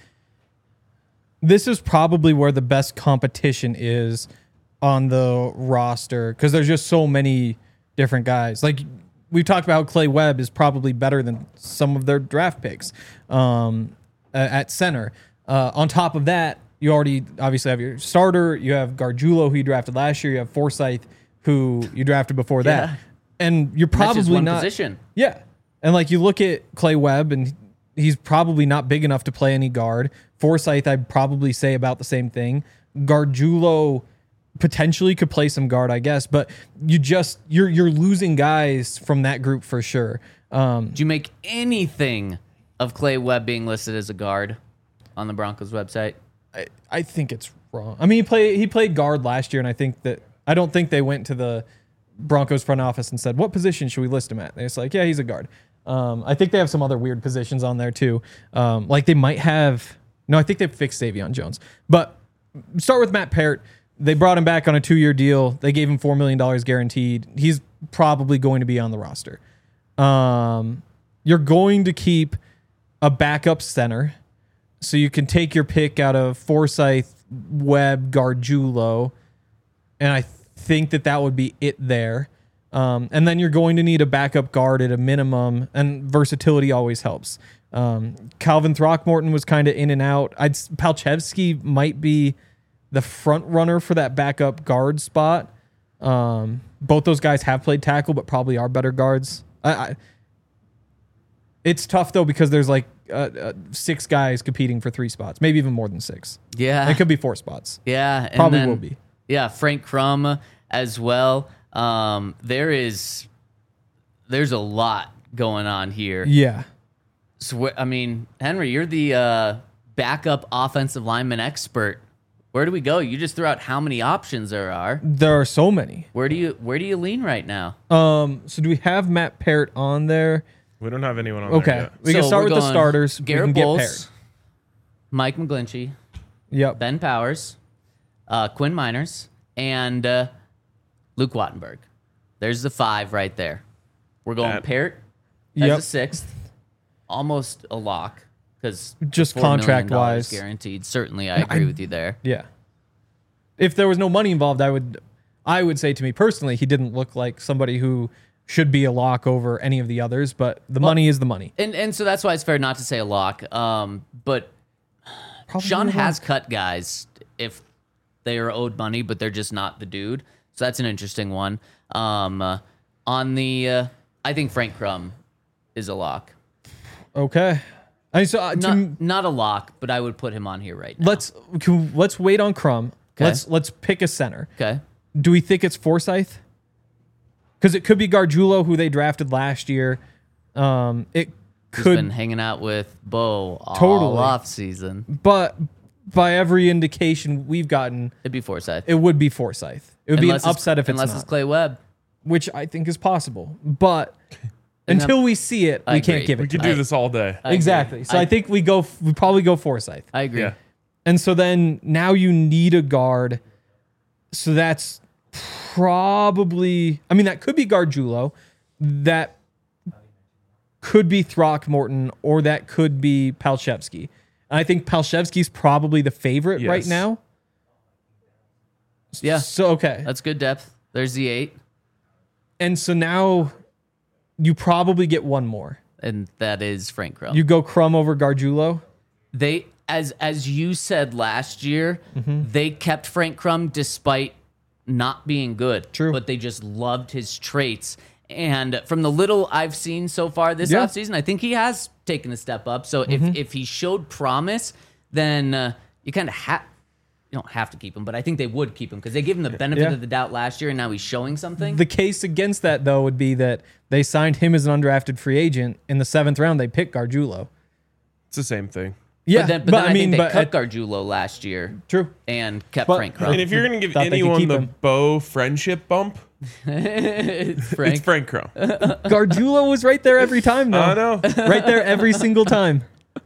this is probably where the best competition is on the roster because there's just so many different guys. Like we've talked about, how Clay Webb is probably better than some of their draft picks um, at center. Uh, on top of that, you already obviously have your starter. You have Gargiulo, who you drafted last year. You have Forsyth, who you drafted before that. Yeah. and you're That's probably just one not. position. Yeah. And like you look at Clay Webb, and he's probably not big enough to play any guard. Forsyth, I'd probably say about the same thing. Gargiulo potentially could play some guard, I guess, but you just you're you're losing guys from that group for sure. Um, Do you make anything of Clay Webb being listed as a guard on the Broncos website? I, I think it's wrong. I mean, he played he played guard last year, and I think that I don't think they went to the Broncos front office and said, "What position should we list him at?" And it's like, "Yeah, he's a guard." Um, I think they have some other weird positions on there too. Um, like they might have. No, I think they fixed Savion Jones. But start with Matt Parrott. They brought him back on a two-year deal. They gave him four million dollars guaranteed. He's probably going to be on the roster. Um, you're going to keep a backup center, so you can take your pick out of Forsyth, Webb, Gargiulo, and I think that that would be it there. Um, and then you're going to need a backup guard at a minimum, and versatility always helps. Um, Calvin Throckmorton was kind of in and out. I'd Palchevsky might be the front runner for that backup guard spot. Um, both those guys have played tackle, but probably are better guards. I, I, it's tough though because there's like uh, uh, six guys competing for three spots, maybe even more than six. Yeah, It could be four spots. yeah, and Probably then- will be. Yeah, Frank Crum as well. Um, there is, there's a lot going on here. Yeah. So, I mean, Henry, you're the uh, backup offensive lineman expert. Where do we go? You just threw out how many options there are. There are so many. Where do you where do you lean right now? Um, so do we have Matt Parrott on there? We don't have anyone on Okay. there yet. We can So start we're with the going starters. Garrett we can Bowles, get Parrott. Mike McGlinchey, Yep. Ben Powers, uh, Quinn Miners, and uh, Luke Wattenberg. There's the five right there. We're going That- Parrott as Yep. a sixth, almost a lock because Just contract-wise. guaranteed. Certainly, I agree with you there. Yeah. If there was no money involved, I would I would say to me personally, he didn't look like somebody who should be a lock over any of the others, but the money is the money. And and so that's why it's fair not to say a lock. Um, but Probably Sean a has lock. cut guys if they are owed money, but they're just not the dude. So that's an interesting one. Um, uh, on the, uh, I think Frank Crum is a lock. Okay. I mean, so uh, to, Not, not a lock, but I would put him on here right now. let's can, let's wait on Crum. Okay. Let's let's pick a center. Okay. Do we think it's Forsyth? Because it could be Gargiulo, who they drafted last year. Um, it He's could, been hanging out with Bo all Totally. off season. but by every indication we've gotten, It'd be Forsyth. it would be Forsyth. It would Unless be an it's- upset if it's unless not, it's Clay Webb. which I think is possible. But And until I'm- we see it, I we can't agree. give We it. could to do them. this all day. I agree. Exactly. So I, I- think we go. We probably go Forsyth. I agree. Yeah. And so then now you need a guard. So that's probably, I mean, that could be Gargiulo. That could be Throckmorton, or that could be Palchevsky. And I think Palchevsky's probably the favorite right Yes. now. Yeah. So, okay. That's good depth. There's the eight. And so now you probably get one more. And that is Frank Crum. You go Crum over Gargiulo. They as as you said last year, Mm-hmm. they kept Frank Crum despite not being good. True. But they just loved his traits. And from the little I've seen so far this Yeah. offseason, I think he has taken a step up. So Mm-hmm. if if he showed promise, then uh, you kind of have you don't have to keep him, but I think they would keep him because they gave him the benefit Yeah. of the doubt last year, and now he's showing something. The case against that, though, would be that they signed him as an undrafted free agent. In the seventh round, they picked Gargiulo. It's the same thing. Yeah, but then, but then I, I mean, think they but cut at- Gargiulo last year true. and kept But- Frank Crum. And if you're going to give Thought they could anyone keep the him. Bo friendship bump, Frank. it's Frank Crum. Gargiulo was right there every time, though. I know. Right there every single time.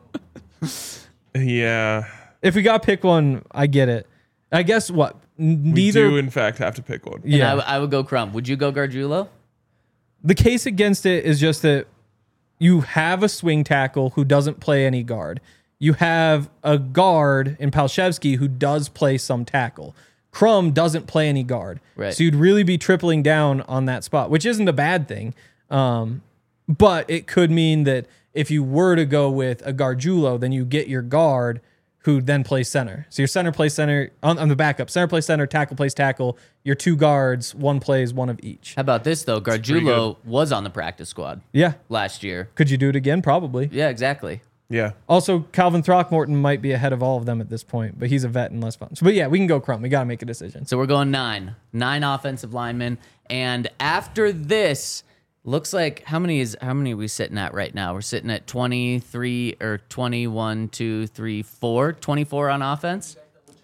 Yeah. If we got to pick one, I get it. I guess what? N- We Neither. do, in fact, have to pick one. And yeah. I, w- I would go Crum. Would you go Gargiulo? The case against it is just that you have a swing tackle who doesn't play any guard. You have a guard in Palchevsky who does play some tackle. Crum doesn't play any guard. Right. So you'd really be tripling down on that spot, which isn't a bad thing. Um, but it could mean that if you were to go with a Gargiulo, then you get your guard who then plays center. So your center plays center on, on the backup. Center plays center, tackle plays tackle. Your two guards, one plays one of each. How about this, though? Gargiulo was on the practice squad Yeah. last year. Could you do it again? Probably. Yeah, exactly. Yeah. Also, Calvin Throckmorton might be ahead of all of them at this point, but he's a vet and less fun. So, but yeah, we can go Crumb. We got to make a decision. So we're going nine. Nine offensive linemen. And after this, looks like how many is how many are we sitting at right now? We're sitting at twenty-three or twenty-one, two, three, four. twenty-four on offense.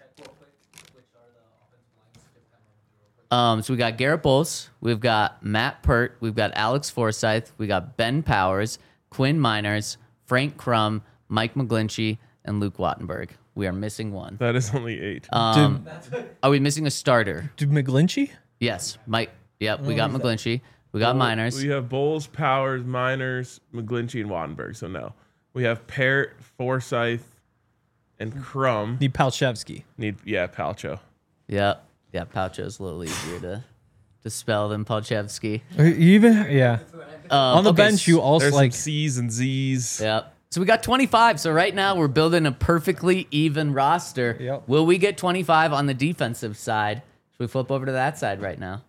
Um, so we got Garrett Bowles, we've got Matt Pert, we've got Alex Forsyth, we got Ben Powers, Quinn Miners, Frank Crum, Mike McGlinchey, and Luke Wattenberg. We are missing one. That is only eight. Um, are we missing a starter? Did McGlinchey? Yes, Mike. Yep, we got McGlinchey. We got Miners. We have Bowles, Powers, Miners, McGlinchey, and Wattenberg. So no. We have Parrott, Forsyth, and Crum. Need Palchevsky. Need yeah, Palcho. Yep. Yeah, Palcho's a little easier to to spell than Palchevsky. Or even yeah. Um, On the okay, bench, you also There's like some C's and Z's. Yep. So we got twenty-five. So right now we're building a perfectly even roster. Yep. Will we get twenty-five on the defensive side? Should we flip over to that side right now?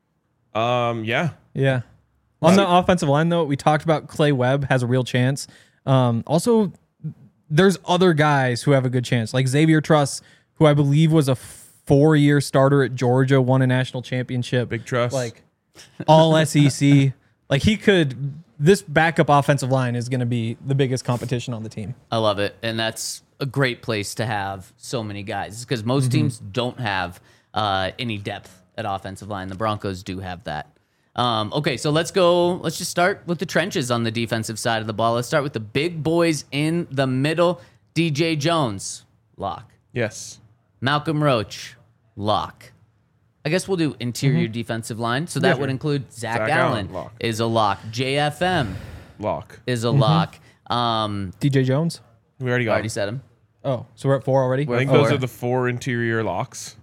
Um, yeah. yeah. On the offensive line, though, we talked about Clay Webb has a real chance. Um, also, there's other guys who have a good chance, like Xavier Truss, who I believe was a four-year starter at Georgia, won a national championship. Big Truss. Like all S E C. Like he could. This backup offensive line is going to be the biggest competition on the team. I love it. And that's a great place to have so many guys because most Mm-hmm. teams don't have uh, any depth at offensive line. The Broncos do have that. Um, okay, so let's go. Let's just start with the trenches on the defensive side of the ball. Let's start with the big boys in the middle. D J Jones, lock. Yes. Malcolm Roach, lock. I guess we'll do interior defensive line. So that would include Zach, Zach Allen, Allen, lock. is a lock. J F M Lock. is a lock. Um, D J Jones. We already got already him. said him. Oh, so we're at four already. We're I think Four. those are the four interior locks.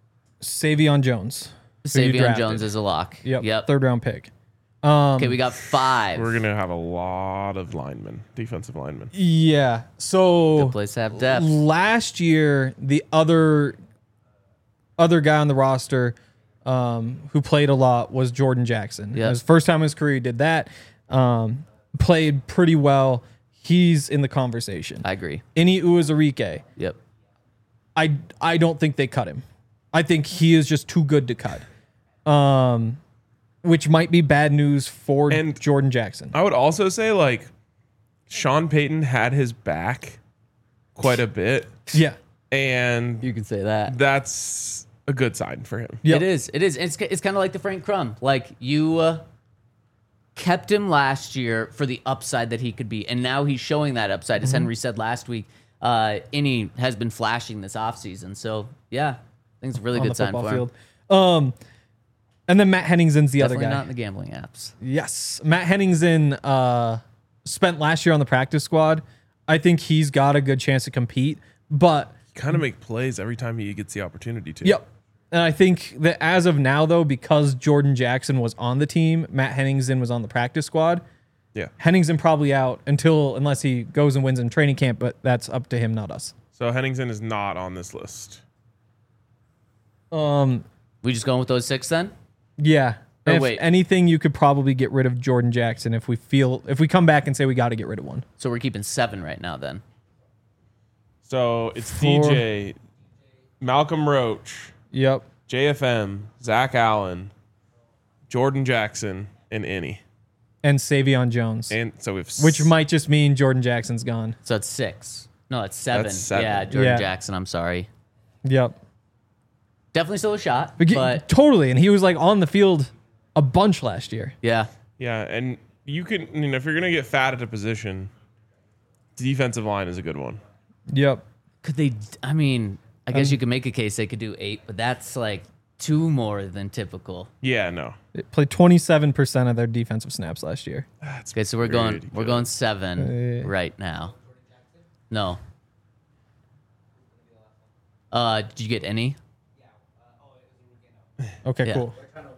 Savion Jones. who you Savion drafted. Jones is a lock. Yep. Yep. Third round pick. Um, Okay, we got five. We're gonna have a lot of linemen, defensive linemen. Yeah. So Good place to have depth. last year, the other other guy on the roster um, who played a lot was Jordan Jackson. Yep. It was the first time in his career he did that. Um, played pretty well. He's in the conversation. I agree. Ini Uwazurike, Yep. I I don't think they cut him. I think he is just too good to cut. Um, which might be bad news for And- Jordan Jackson. I would also say like Sean Payton had his back quite a bit, Yeah. and You can say that. that's a good sign for him. Yep. It is. It is. It's it's kind of like the Frank Crum. Like you uh, kept him last year for the upside that he could be, and now he's showing that upside. Mm-hmm. As Henry said last week, uh, Innie has been flashing this offseason. So yeah, I think it's a really on good the sign football for him. field. Um, and then Matt Henningsen's the Definitely other guy. not in the gambling apps. Yes, Matt Henningsen uh, spent last year on the practice squad. I think he's got a good chance to compete, but Kind of make plays every time he gets the opportunity to. yep. And I think that as of now, though, because Jordan Jackson was on the team, Matt Henningsen was on the practice squad. Yeah. Henningsen probably out until unless he goes and wins in training camp, but that's up to him, not us. So Henningsen is not on this list. Um, We just going with those six then? yeah. Or if wait. anything, you could probably get rid of Jordan Jackson if we feel if we come back and say we got to get rid of one. So we're keeping seven right now then. So it's Four. D J, Malcolm Roach, Yep. J F M, Zach Allen, Jordan Jackson, and Innie. And Savion Jones, And so we've which might just mean Jordan Jackson's gone. So it's six. No, it's seven. That's seven. Yeah, Jordan Yeah. Jackson. I'm sorry. Yep. Definitely still a shot, But, but totally, and he was like on the field a bunch last year. yeah. Yeah, and you can, you know, if you're gonna get fat at a position, defensive line is a good one. Yep. Could they? I mean, I guess Um, you could make a case they could do eight, but that's like two more than typical. Yeah, no, They played twenty-seven percent of their defensive snaps last year. that's Okay, so we're going pretty we're good. going seven Uh, right now. No. Uh, did you get any? Okay, Yeah. cool.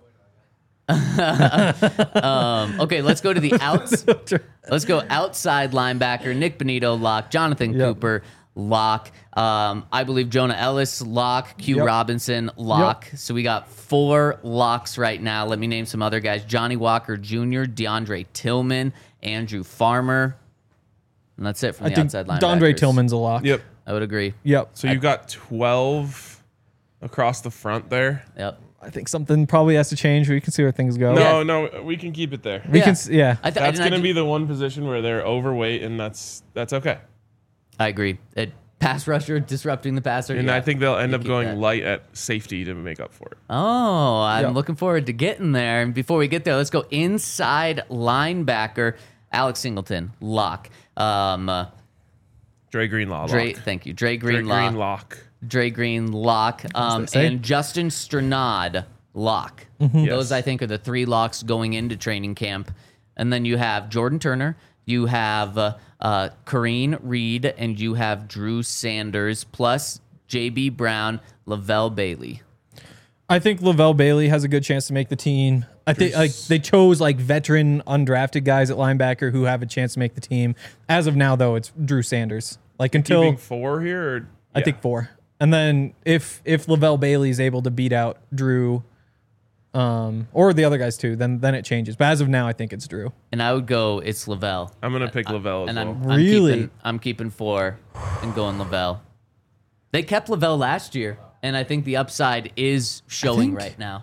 Um, okay, let's go to the outs. Let's go outside linebacker. Nick Benito, lock. Jonathan Yep. Cooper, lock. Um, I believe Jonah Ellis, lock. Q Yep. Robinson, lock. So we got four locks right now. Let me name some other guys. Johnny Walker Junior, DeAndre Tillman, Andrew Farmer. And that's it from I the think outside linebackers. DeAndre Tillman's a lock. Yep. I would agree. Yep. So you've got twelve across the front there. Yep. I think something probably has to change. We can see where things go. No, Yeah. no, we can keep it there. We Yeah. can. s- Yeah. I th- That's and I going to do- be the one position where they're overweight, and that's that's okay. I agree. It, pass rusher disrupting the passer. And yeah. I think they'll end You up keep going that. light at safety to make up for it. Oh, I'm Yep. looking forward to getting there. And before we get there, let's go inside linebacker. Alex Singleton, lock. Um, uh, Dre Greenlaw, Dre, lock. thank you. Dre Dre Green, lock. Green lock. Dre Green, lock. Um, they say. and Justin Stranad, lock. Mm-hmm. Yes. Those, I think, are the three locks going into training camp. And then you have Jordan Turner, you have uh, uh, Kareen Reed, and you have Drew Sanders, plus J B Brown, Lavelle Bailey. I think Lavelle Bailey has a good chance to make the team. I think like they chose like veteran undrafted guys at linebacker who have a chance to make the team. As of now, though, it's Drew Sanders. Like until Keeping four here? Or, I yeah. think four, and then if if Lavelle Bailey is able to beat out Drew, um, or the other guys too, then then it changes. But as of now, I think it's Drew. And I would go, it's Lavelle. I'm going to pick Lavelle as And well. I'm, I'm Really? keeping, I'm keeping four and going Lavelle. They kept Lavelle last year, and I think the upside is showing think- right now.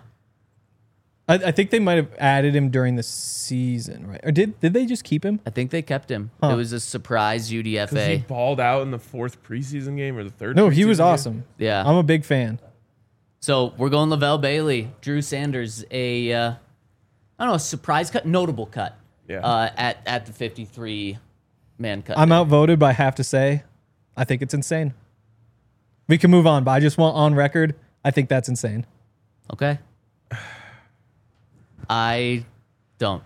I, I think they might have added him during the season, right? Or did did they just keep him? I think they kept him. Huh. It was a surprise U D F Because he A. balled out in the fourth preseason game or the third No, he was preseason game. awesome. Yeah. I'm a big fan. So we're going Lavelle Bailey, Drew Sanders, a uh, I don't know, a surprise cut, notable cut. Yeah. Uh, at at the fifty-three man cut. I'm outvoted, but I have to say, I think it's insane. We can move on, but I just want on record. I think that's insane. Okay. I don't.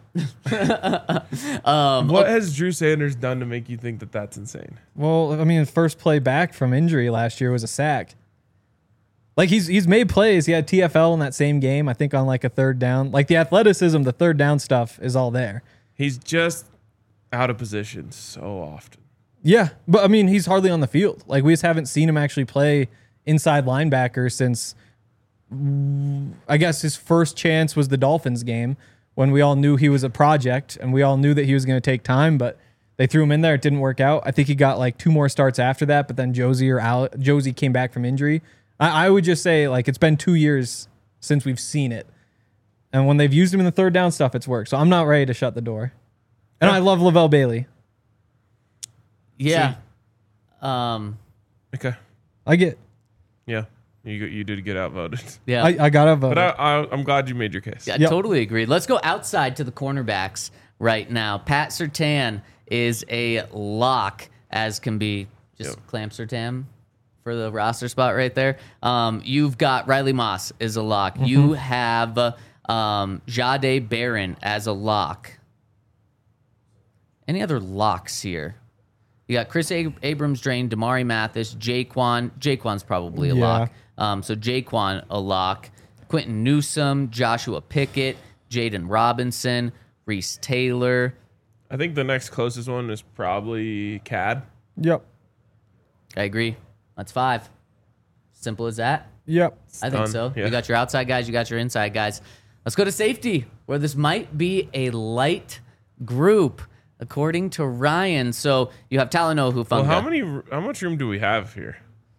um, What has Drew Sanders done to make you think that that's insane? Well, I mean, his first play back from injury last year was a sack. Like he's he's made plays. He had T F L in that same game, I think, on like a third down. Like the athleticism, the third down stuff is all there. He's just out of position so often. Yeah, but I mean, he's hardly on the field. Like we just haven't seen him actually play inside linebacker since. I guess his first chance was the Dolphins game when we all knew he was a project and we all knew that he was going to take time, but they threw him in there. It didn't work out. I think he got like two more starts after that, but then Josie or Al- Josie came back from injury. I, I would just say like it's been two years since we've seen it. And when they've used him in the third down stuff, it's worked. So I'm not ready to shut the door. And I love Lavelle Bailey. yeah. Um, Okay. I get, Yeah. You you did get outvoted. yeah. I, I got to vote. But I, I, I'm glad you made your case. I Yep. totally agree. Let's go outside to the cornerbacks right now. Pat Surtain is a lock, as can be. Just Yep. clamp Surtain for the roster spot right there. Um, you've got Riley Moss is a lock. You have uh, um, Jade Barron as a lock. Any other locks here? You got Chris Ab- Abrams Drain, Damari Mathis, Jaquan. Jaquan's probably a Yeah. lock. Um, so Jaquan a lock. Quentin Newsome, Joshua Pickett, Jaden Robinson, Reese Taylor. I think the next closest one is probably Cad. Yep. I agree. That's five. Simple as that. Yep. I think done. so. Yeah. You got your outside guys, you got your inside guys. Let's go to safety, where this might be a light group, according to Ryan. So you have Talanoa Hufanga. Well, how many? How much room do we have here?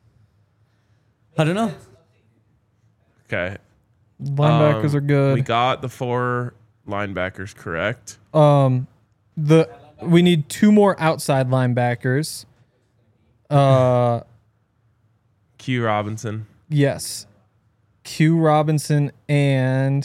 I don't know. Okay. Linebackers Um, are good. We got the four linebackers correct. Um, the we need two more outside linebackers. Uh, Q Robinson. yes, Q Robinson and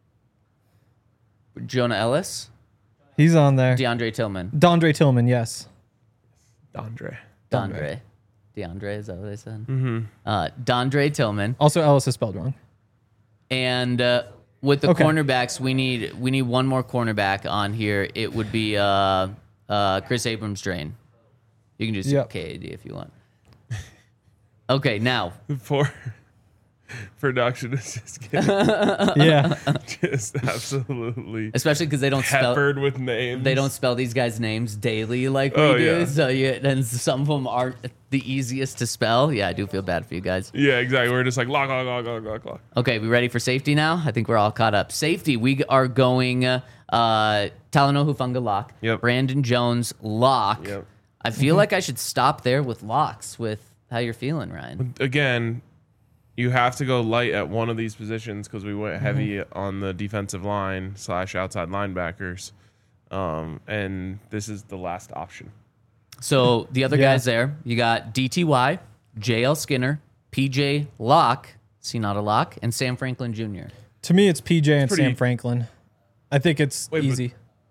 Jonah Ellis, he's on there. DeAndre Tillman. Dondre Tillman, yes. Dondre. Dondre. DeAndre, is that what they said? Mm-hmm. Uh, Dondre Tillman. Also, Ellis is spelled wrong. And uh, with the Okay. cornerbacks, we need we need one more cornerback on here. It would be uh, uh, Chris Abrams Drain. You can just Yep. K A D if you want. Okay, now Four. production is just getting Yeah. just absolutely Especially because they don't spell peppered with names. they don't spell these guys' names daily like we Oh, do. yeah. So you and some of them aren't the easiest to spell. Yeah, I do feel bad for you guys. Yeah, exactly. We're just like lock, lock, lock, lock, lock, lock. Okay, we ready for safety now? I think we're all caught up. Safety, we are going uh, uh Talanoa Hufanga lock. Yep. Brandon Jones lock. Yep. I feel like I should stop there with locks with how you're feeling, Ryan. Again, you have to go light at one of these positions because we went heavy on the defensive line slash outside linebackers, um, and this is the last option. So the other Yeah. guys there, you got D T Y, J L Skinner, P J Locke, see not a lock, and Sam Franklin Junior To me, it's P J and pretty- Sam Franklin. I think it's Wait, but- easy.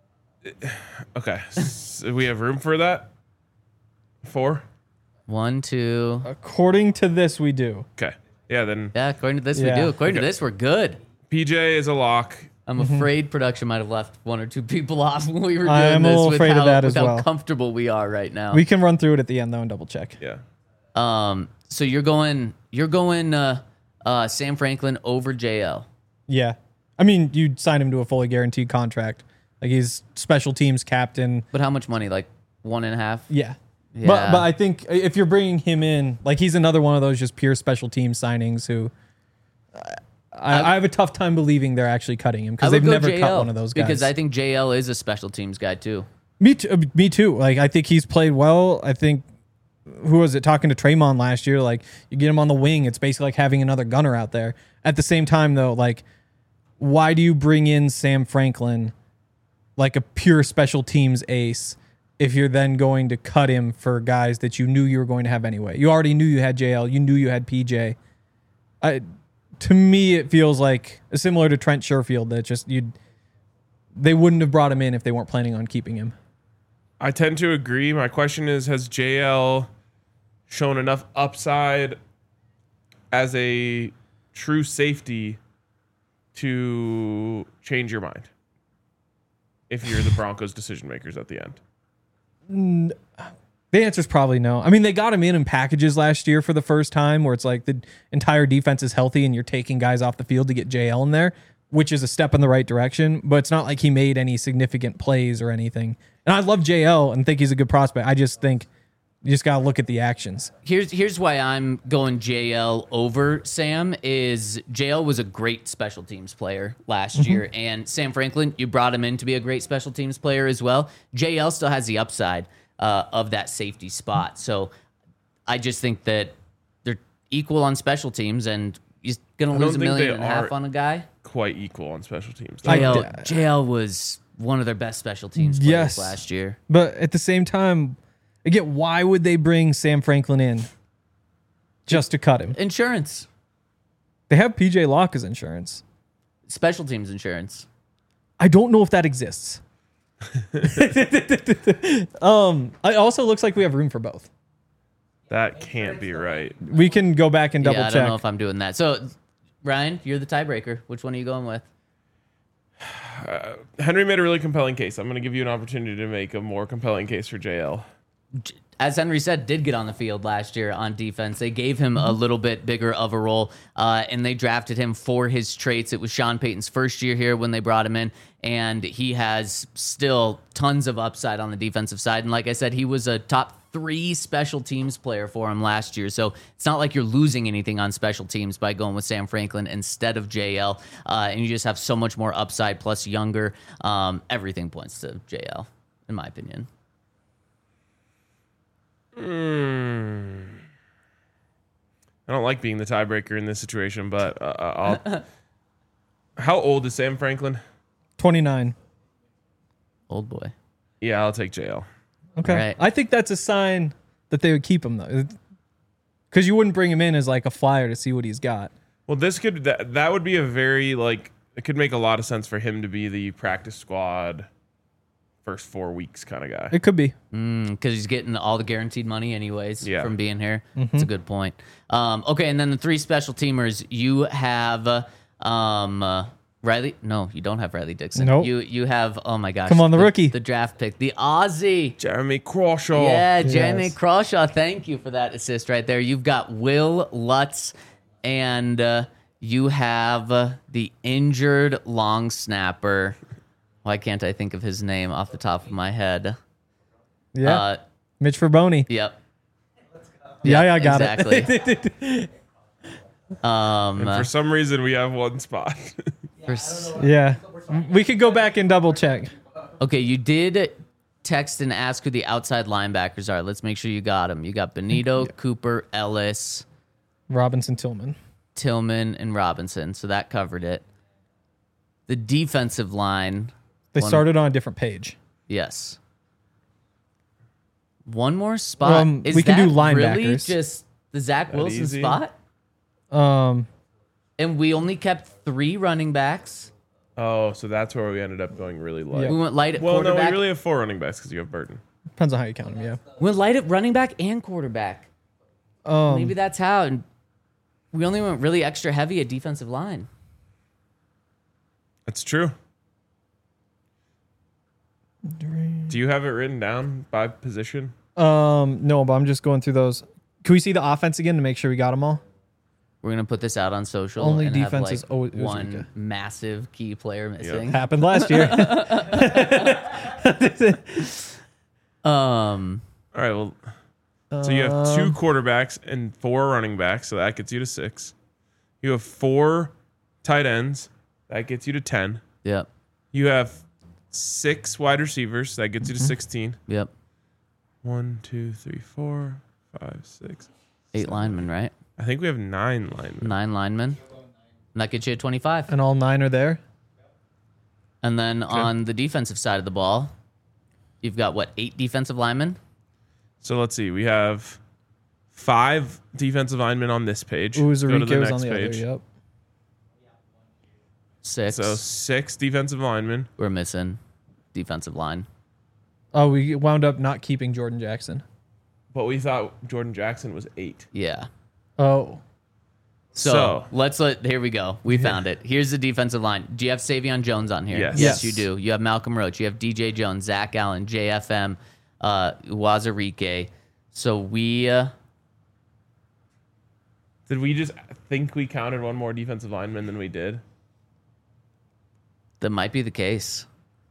Okay, so we have room for that. Four. One, two. According to this, we do. Okay. Yeah, then Yeah, according to this, Yeah. we do. According Okay. to this, we're good. P J is a lock. I'm afraid production might have left one or two people off when we were doing I am a this little with afraid of how, that with as how well. comfortable we are right now. We can run through it at the end though and double check. Yeah. um, so you're going, you're going uh, uh, Sam Franklin over J L. Yeah. I mean, you'd sign him to a fully guaranteed contract. Like he's special teams captain. But how much money? Like one and a half? Yeah. Yeah. But but I think if you're bringing him in, like he's another one of those just pure special team signings who I, I have a tough time believing they're actually cutting him I because would they've go never J L cut one of those guys. because I think J L is a special teams guy too. me too, uh, me too. Like I think he's played well. I think who was it talking to Traymon last year? Like you get him on the wing, it's basically like having another gunner out there. At the same time though, like why do you bring in Sam Franklin like a pure special teams ace if you're then going to cut him for guys that you knew you were going to have anyway? You already knew you had J L, you knew you had P J. I, to me, it feels like similar to Trent Sherfield that just you they wouldn't have brought him in if they weren't planning on keeping him. I tend to agree. My question is, has J L shown enough upside as a true safety to change your mind if you're the Broncos decision makers at the end? The answer is probably no. I mean, they got him in in packages last year for the first time where it's like the entire defense is healthy and you're taking guys off the field to get J L in there, which is a step in the right direction, but it's not like he made any significant plays or anything. And I love J L and think he's a good prospect. I just think you just got to look at the actions. Here's here's why I'm going J L over Sam is J L was a great special teams player last Mm-hmm. year, and Sam Franklin, you brought him in to be a great special teams player as well. J L still has the upside uh, of that safety spot, so I just think that they're equal on special teams, and he's gonna I lose a don't think million they and a half are. on a guy. Quite equal on special teams. I- J L, d- J L was one of their best special teams players Yes. last year. But at the same time, again, why would they bring Sam Franklin in just to cut him? Insurance, They have P J Locke as insurance. special teams insurance. I don't know if that exists. um, it also looks like we have room for both. That can't be right. We can go back and double yeah, I check. don't know if I'm doing that. So, Ryan, you're the tiebreaker. Which one are you going with? Henry made a really compelling case. I'm going to give you an opportunity to make a more compelling case for J L. As Henry said, did get on the field last year on defense. They gave him a little bit bigger of a role, uh, and they drafted him for his traits. It was Sean Payton's first year here when they brought him in, and he has still tons of upside on the defensive side. And like I said, he was a top three special teams player for him last year. So it's not like you're losing anything on special teams by going with Sam Franklin instead of J L, uh, and you just have so much more upside plus younger. Um, everything points to J L, in my opinion. Hmm. I don't like being the tiebreaker in this situation, but uh, I'll. How old is Sam Franklin? twenty-nine. Old boy. Yeah, I'll take J L. Okay. Right. I think that's a sign that they would keep him, though. Because you wouldn't bring him in as like a flyer to see what he's got. Well, this could that, that would be a very like it could make a lot of sense for him to be the practice squad first four weeks kind of guy. It could be. Because he's getting all the guaranteed money anyways Yeah. from being here. That's a good point. Um, okay, and then the three special teamers, you have uh, um, uh, Riley. No, you don't have Riley Dixon. Nope. You you have, oh my gosh. Come on, the rookie. The draft pick. The Aussie. Jeremy Crawshaw. Yeah, Jamie Yes. Crawshaw. Thank you for that assist right there. You've got Will Lutz and uh, you have uh, the injured long snapper. Why can't I think of his name off the top of my head? Yeah. Uh, Mitch Verboni. yep. Yeah, yeah, I got exactly. it. um, And for some reason, we have one spot. for s- Yeah. We could go back and double check. okay, you did text and ask who the outside linebackers are. Let's make sure you got them. You got Benito, Cooper, Ellis, Robinson Tillman. Tillman, and Robinson. So that covered it. The defensive line. They One- started on a different page. Yes. One more spot. Um, Is we can do that really linebackers. just the Zach That Wilson easy? spot? Um, And we only kept three running backs. Oh, so that's where we ended up going really light. Yeah. We went light at Well, no, quarterback. we really have four running backs because you have Burton. depends on how you count them. Yeah. we went light at running back and quarterback. Um, Maybe that's how. And we only went really extra heavy at defensive line. That's true. Do you have it written down by position? Um, no, but I'm just going through those. Can we see the offense again to make sure we got them all? We're gonna put this out on social. Only and defense have like is always- it was one okay. massive key player missing. Happened last year. Um, All right. Well, so you have two quarterbacks and four running backs, so that gets you to six. You have four tight ends, that gets you to ten. yep, You have six wide receivers, that gets you to sixteen. yep. One, two, three, four, five, six. Eight linemen, right? I think we have nine linemen. Nine linemen. And that gets you at twenty-five. And all nine are there. And then on the defensive side of the ball, you've got what, eight defensive linemen? So let's see. We have five defensive linemen on this page. Ooh, Go to the Zarico's next on the page. other. Yep. Six. So six defensive linemen. We're missing defensive line. Oh, we wound up not keeping Jordan Jackson. But we thought Jordan Jackson was eight. Yeah. Oh, So, So- let's let, here we go. We found it. Here's the defensive line. Do you have Savion Jones on here? Yes. Yes, Yes. you do. You have Malcolm Roach. You have D J Jones, Zach Allen, J F M, uh, Wazarike. So we, uh, Did we just think we counted one more defensive lineman than we did? that might be the case.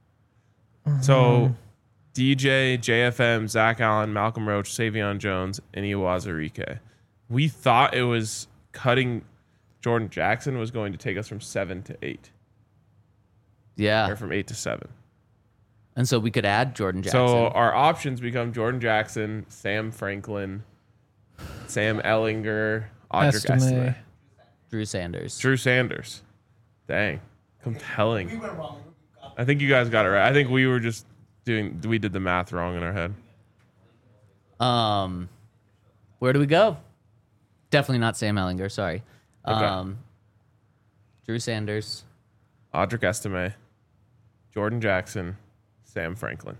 So D J, J F M, Zach Allen, Malcolm Roach, Savion Jones, and Iwazurike. We thought it was cutting Jordan Jackson was going to take us from seven to eight, Yeah. or from eight to seven. And so we could add Jordan Jackson. So our options become Jordan Jackson, Sam Franklin, Sam Ellinger, Audric Estime. Estime, Drew Sanders. Drew Sanders. Dang, compelling. We went wrong. I think you guys got it right. I think we were just doing, we did the math wrong in our head. Um, where do we go? Definitely not Sam Ellinger. Sorry. Okay. Um, Drew Sanders. Audric Estime, Jordan Jackson, Sam Franklin.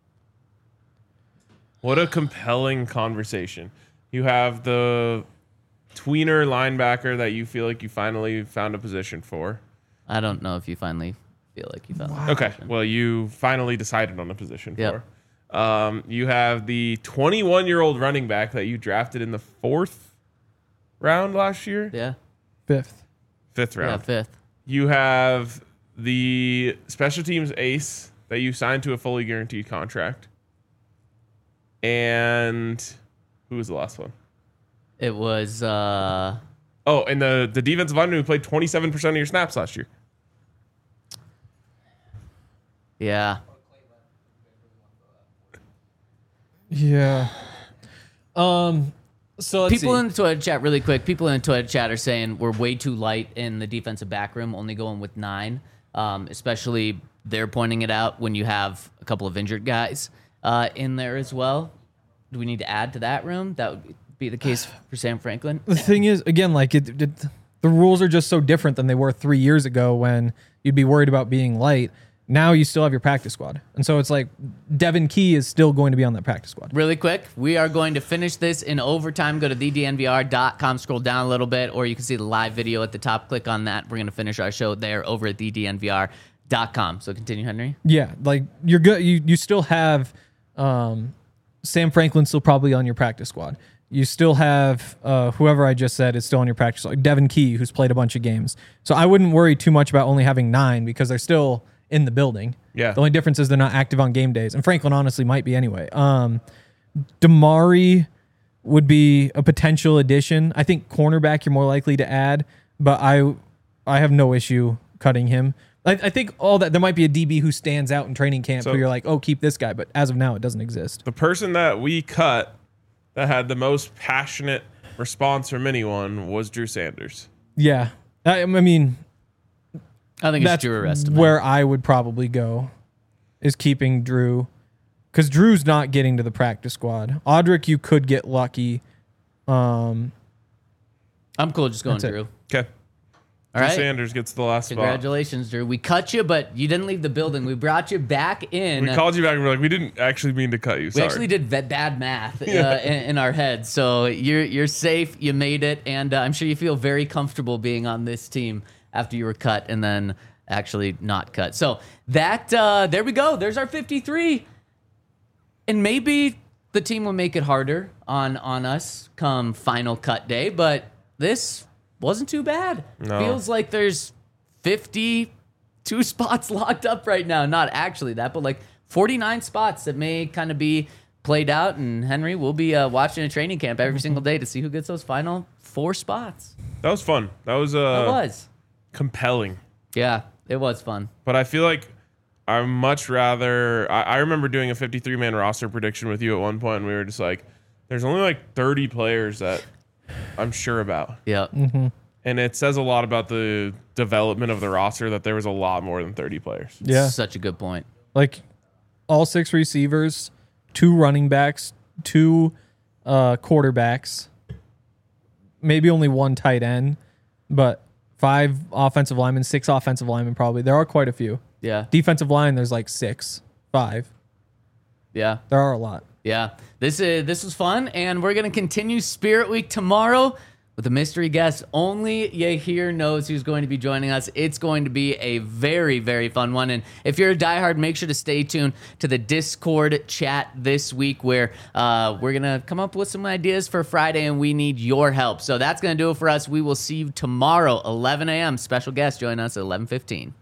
What a compelling conversation. You have the tweener linebacker that you feel like you finally found a position for. I don't know if you finally feel like you found. Okay, well, you finally decided on a position Yep. for. Um, you have the twenty-one-year-old running back that you drafted in the fourth round last year, Yeah. fifth. fifth Yeah. round. Fifth. You have the special teams ace that you signed to a fully guaranteed contract. And who was the last one? It was. uh Oh, and the, the defensive lineman who played twenty-seven percent of your snaps last year. Yeah. Yeah. Um. So let's People see. in the Twitter chat, really quick. People in the Twitter chat are saying we're way too light in the defensive back room, only going with nine. Um, especially they're pointing it out when you have a couple of injured guys uh, in there as well. Do we need to add to that room? That would be the case for Sam Franklin. The thing is, again, like it, it, the rules are just so different than they were three years ago when you'd be worried about being light. Now you still have your practice squad, and so it's like Devin Key is still going to be on that practice squad. Really quick, we are going to finish this in overtime. Go to the d n v r dot com, scroll down a little bit, or you can see the live video at the top. Click on that. We're going to finish our show there over at the d n v r dot com. So continue, Henry. Yeah, like you're good. You you still have um, Sam Franklin still probably on your practice squad. You still have uh, whoever I just said is still on your practice, like Devin Key, who's played a bunch of games. So I wouldn't worry too much about only having nine because they're still in the building. Yeah. The only difference is they're not active on game days, and Franklin honestly might be anyway. Um, Damari would be a potential addition. I think cornerback you're more likely to add, but I I have no issue cutting him. I, I think all that there might be a D B who stands out in training camp So- who you're like, oh, keep this guy, but as of now, it doesn't exist. The person that we cut that had the most passionate response from anyone was Drew Sanders. Yeah, I, I mean I think it's that's Drew Arrest. where I would probably go, is keeping Drew, because Drew's not getting to the practice squad. Audric, you could get lucky. Um, I'm cool just going That's it. Drew. Okay. All Drew right. Sanders gets the last spot. Congratulations, Drew. We cut you, but you didn't leave the building. We brought you back in. We called you back and we're like, we didn't actually mean to cut you. We Sorry. actually did ve- bad math uh, Yeah. in, in our heads. So you're you're safe. You made it, and uh, I'm sure you feel very comfortable being on this team after you were cut and then actually not cut. So that uh, there we go. There's our fifty-three, and maybe the team will make it harder on on us come final cut day. But this wasn't too bad. No. Feels like there's fifty-two spots locked up right now. Not actually that, but like forty-nine spots that may kind of be played out. And Henry, we'll be uh, watching a training camp every single day to see who gets those final four spots. That was fun. That was uh, It was. compelling. Yeah, it was fun. But I feel like I much rather. I, I remember doing a fifty-three man roster prediction with you at one point, and we were just like, "There's only like thirty players that I'm sure about," Yeah. and it says a lot about the development of the roster that there was a lot more than thirty players. yeah, Such a good point. like all six receivers, two running backs, two uh, quarterbacks, maybe only one tight end, but five offensive linemen, six offensive linemen probably. There are quite a few. Yeah. Defensive line, there's like six, five. Yeah. There are a lot. Yeah, this is this was fun, and we're gonna continue Spirit Week tomorrow with a mystery guest. Only Yahir knows who's going to be joining us. It's going to be a very, very fun one. And if you're a diehard, make sure to stay tuned to the Discord chat this week, where uh, we're gonna come up with some ideas for Friday, and we need your help. So that's gonna do it for us. We will see you tomorrow, eleven a.m. Special guest join us at eleven fifteen.